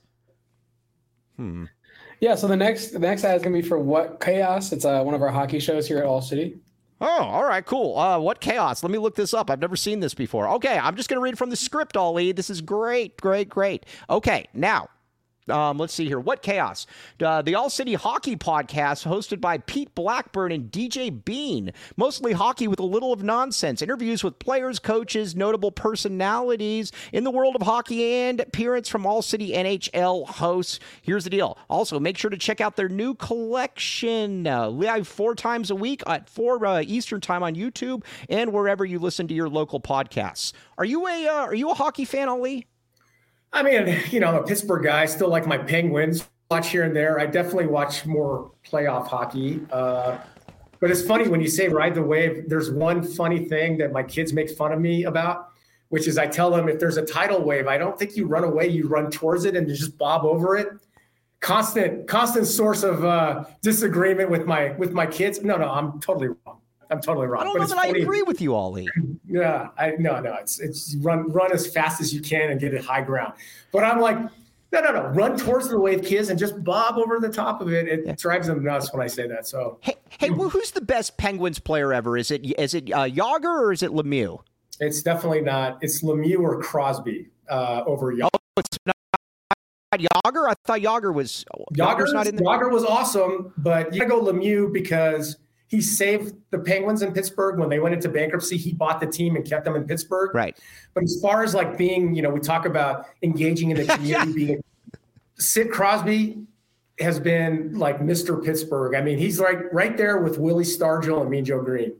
Hmm. Yeah, so the next the next ad is going to be for What Chaos. It's uh, one of our hockey shows here at All City. Oh, all right, cool. Uh, What Chaos? Let me look this up. I've never seen this before. Okay, I'm just going to read from the script, Ollie. This is great, great, great. Okay, now, um, let's see here. What Chaos? Uh, the All City Hockey Podcast hosted by Pete Blackburn and D J Bean. Mostly hockey with a little of nonsense. Interviews with players, coaches, notable personalities in the world of hockey, and appearance from All City N H L hosts. Here's the deal. Also, make sure to check out their new collection. Uh, live four times a week at four uh, Eastern time on YouTube and wherever you listen to your local podcasts. Are you a uh, Are you a hockey fan, Ali? I mean, you know, I'm a Pittsburgh guy. I still like my Penguins. Watch here and there. I definitely watch more playoff hockey. Uh, but it's funny when you say ride the wave. There's one funny thing that my kids make fun of me about, which is I tell them if there's a tidal wave, I don't think you run away. You run towards it and you just bob over it. Constant, constant source of uh, disagreement with my with my kids. No, no, I'm totally wrong. I'm totally wrong. I don't but know it's that funny. I agree with you, Ollie. Yeah, I no, no. It's it's run run as fast as you can and get it high ground. But I'm like, no, no, no. Run towards the wave, kids, and just bob over the top of it. It yeah. drives them nuts when I say that. So hey, hey, well, who's the best Penguins player ever? Is it is it uh, Yager or is it Lemieux? It's definitely not. It's Lemieux or Crosby uh, over Yager. Oh, it's not Yager. I thought Yager was Yager's not in the Yager was awesome, but you gotta go Lemieux because he saved the Penguins in Pittsburgh when they went into bankruptcy. He bought the team and kept them in Pittsburgh. Right. But as far as like being, you know, we talk about engaging in the community, yeah. being Sid Crosby has been like Mister Pittsburgh. I mean, he's like right there with Willie Stargell and Mean Joe Green.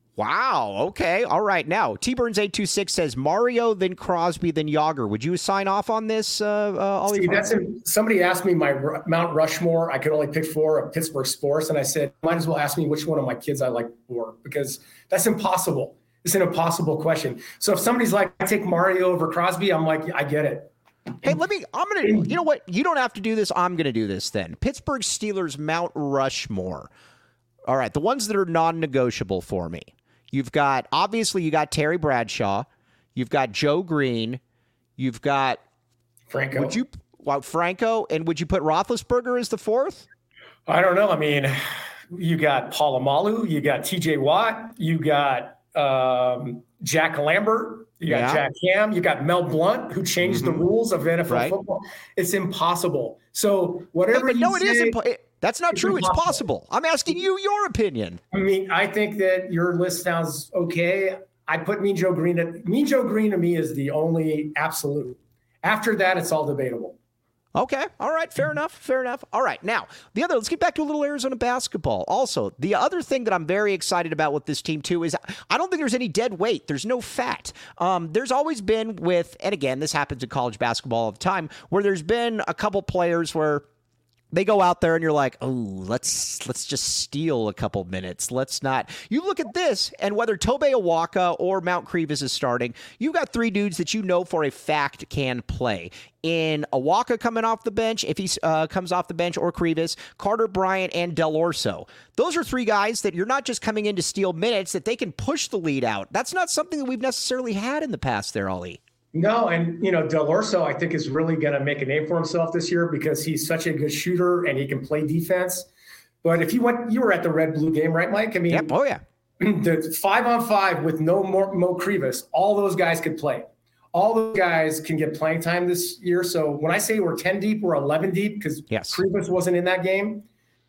Wow. Okay. All right. Now, T Burns eight two six says Mario, then Crosby, then Yager. Would you sign off on this, uh, uh, Ollie? See, that's a, somebody asked me my R- Mount Rushmore. I could only pick four of Pittsburgh sports. And I said, might as well ask me which one of my kids I like more, because that's impossible. It's an impossible question. So if somebody's like, I take Mario over Crosby, I'm like, I get it. Hey, let me, I'm going to, you know what? You don't have to do this. I'm going to do this then. Pittsburgh Steelers Mount Rushmore. All right. The ones that are non-negotiable for me. You've got, obviously, you got Terry Bradshaw. You've got Joe Green. You've got Franco. Would you, well, Franco, and would you put Roethlisberger as the fourth? I don't know. I mean, you got Polamalu. You got T J Watt. You got um, Jack Lambert. You got yeah. Jack Ham. You got Mel Blount, who changed mm-hmm. the rules of N F L right. football. It's impossible. So whatever hey, but you no, it say, is impossible. That's not it's true. Impossible. It's possible. I'm asking you your opinion. I mean, I think that your list sounds okay. I put Mean Joe Green at Mean Joe Green to me is the only absolute. After that, it's all debatable. Okay. All right. Fair enough. Fair enough. All right. Now, the other, let's get back to a little Arizona basketball. Also, the other thing that I'm very excited about with this team, too, is I don't think there's any dead weight. There's no fat. Um, there's always been with, and again, this happens in college basketball all the time, where there's been a couple players where they go out there and you're like, oh, let's let's just steal a couple minutes. Let's not. You look at this, and whether Tobe Awaka or Mount Crevis is starting, you've got three dudes that you know for a fact can play. In Awaka coming off the bench, if he uh, comes off the bench, or Crevis, Carter Bryant, and Del Orso. Those are three guys that you're not just coming in to steal minutes, that they can push the lead out. That's not something that we've necessarily had in the past there, Ollie. No, and, you know, Del Orso, I think, is really going to make a name for himself this year because he's such a good shooter and he can play defense. But if you went, you were at the Red-Blue game, right, Mike? I mean, yep. Oh, yeah. The five on five with no more Mo Crevis, all those guys could play. All those guys can get playing time this year. So when I say we're ten deep, we're eleven deep because yes. Crevis wasn't in that game.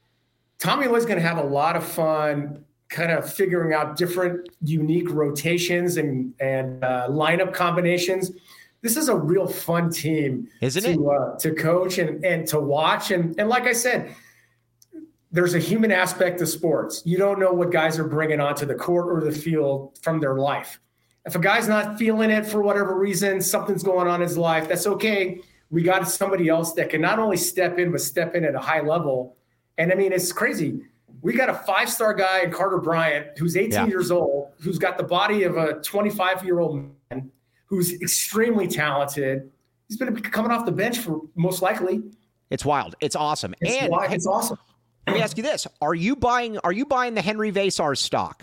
Tommy Lloyd's going to have a lot of fun kind of figuring out different unique rotations and, and uh, lineup combinations. This is a real fun team Isn't to, it? Uh, to coach and, and to watch. And, and like I said, there's a human aspect to sports. You don't know what guys are bringing onto the court or the field from their life. If a guy's not feeling it for whatever reason, something's going on in his life, that's okay. We got somebody else that can not only step in, but step in at a high level. And I mean, it's crazy. We got a five-star guy in Carter Bryant who's eighteen yeah. years old, who's got the body of a twenty-five-year-old man, who's extremely talented. He's been coming off the bench for most likely. It's wild. It's awesome. It's, and wild. It's awesome. Let me ask you this: Are you buying? Are you buying the Henry Vasar stock?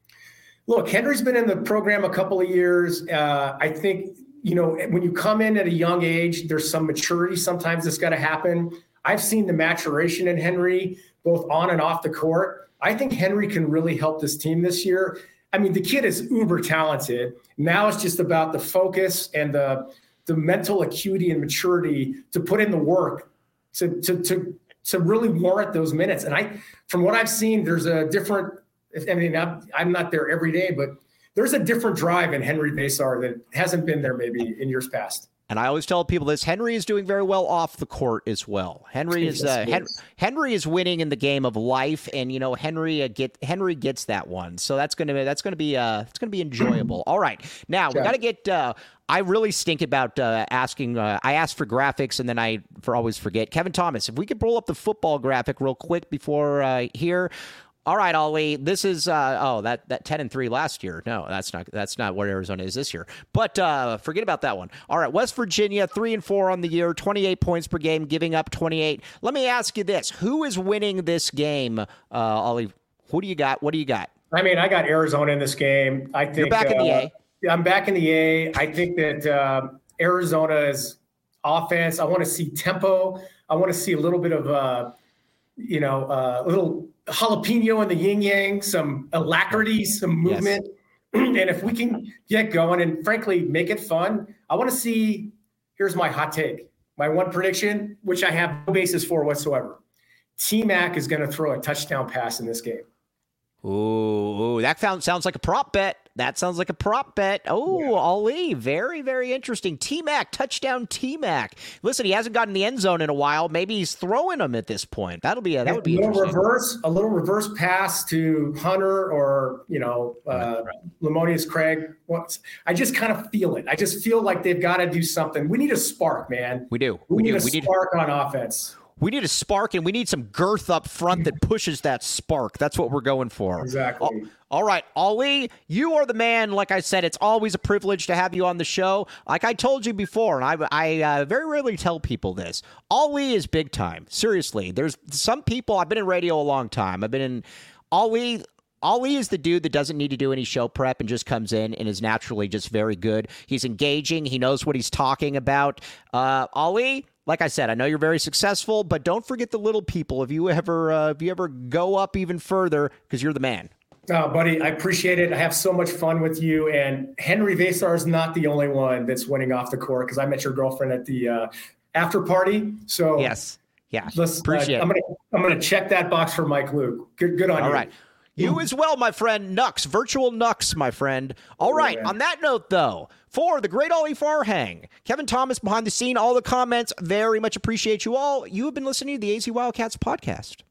Look, Henry's been in the program a couple of years. Uh, I think, you know, when you come in at a young age, there's some maturity sometimes that's got to happen. I've seen the maturation in Henry, both on and off the court. I think Henry can really help this team this year. I mean, the kid is uber talented. Now it's just about the focus and the the mental acuity and maturity to put in the work to to to to really warrant those minutes. And I, from what I've seen, there's a different. I mean, I'm, I'm not there every day, but there's a different drive in Henry Vasar that hasn't been there maybe in years past. And I always tell people this: Henry is doing very well off the court as well. Henry is uh, Hen- Henry is winning in the game of life, and you know Henry uh, get Henry gets that one, so that's gonna be that's gonna be uh it's gonna be enjoyable. All right, now we got to get. Uh, I really stink about uh, asking. Uh, I asked for graphics, and then I for always forget. Kevin Thomas, if we could pull up the football graphic real quick before uh, here. All right, Ollie. This is uh, oh that that ten and three last year. No, that's not that's not what Arizona is this year. But uh, forget about that one. All right, West Virginia three and four on the year, twenty-eight points per game, giving up twenty-eight. Let me ask you this: Who is winning this game, uh, Ollie? Who do you got? What do you got? I mean, I got Arizona in this game. I think you're back uh, in the A. I'm back in the A. I think that uh, Arizona's offense. I want to see tempo. I want to see a little bit of uh, you know a uh, little. jalapeno in the yin yang, some alacrity, some movement. Yes. And if we can get going and frankly make it fun, I want to see, here's my hot take, my one prediction, which I have no basis for whatsoever. T-Mac is going to throw a touchdown pass in this game. Ooh, ooh, that found, sounds like a prop bet. That sounds like a prop bet. Oh, yeah. Ali, very, very interesting. T-Mac, touchdown T-Mac. Listen, he hasn't gotten the end zone in a while. Maybe he's throwing them at this point. That'll be a, that would be a little interesting. reverse, a little reverse pass to Hunter or you know, uh, right, right. Lamonius Craig. I just kind of feel it. I just feel like they've got to do something. We need a spark, man. We do. We, we need do. a we spark need... on offense. We need a spark, and we need some girth up front that pushes that spark. That's what we're going for. Exactly. All, all right, Ali, you are the man. Like I said, it's always a privilege to have you on the show. Like I told you before, and I, I uh, very rarely tell people this, Ali is big time. Seriously, there's some people, I've been in radio a long time. I've been in, Ali... Ali is the dude that doesn't need to do any show prep and just comes in and is naturally just very good. He's engaging. He knows what he's talking about. Uh, Ali, like I said, I know you're very successful, but don't forget the little people. If you ever, uh, if you ever go up even further, because you're the man. Oh, buddy, I appreciate it. I have so much fun with you. And Henry Vasar is not the only one that's winning off the court because I met your girlfriend at the uh, after party. So yes, yeah, let's, appreciate. Uh, I'm gonna I'm gonna check that box for Mike Luke. Good, good on All you. All right. You as well, my friend. Nux, virtual Nux, my friend. All right. On that note, though, for the great Ollie Farhang, Kevin Thomas behind the scene, all the comments, very much appreciate you all. You have been listening to the A Z Wildcats podcast.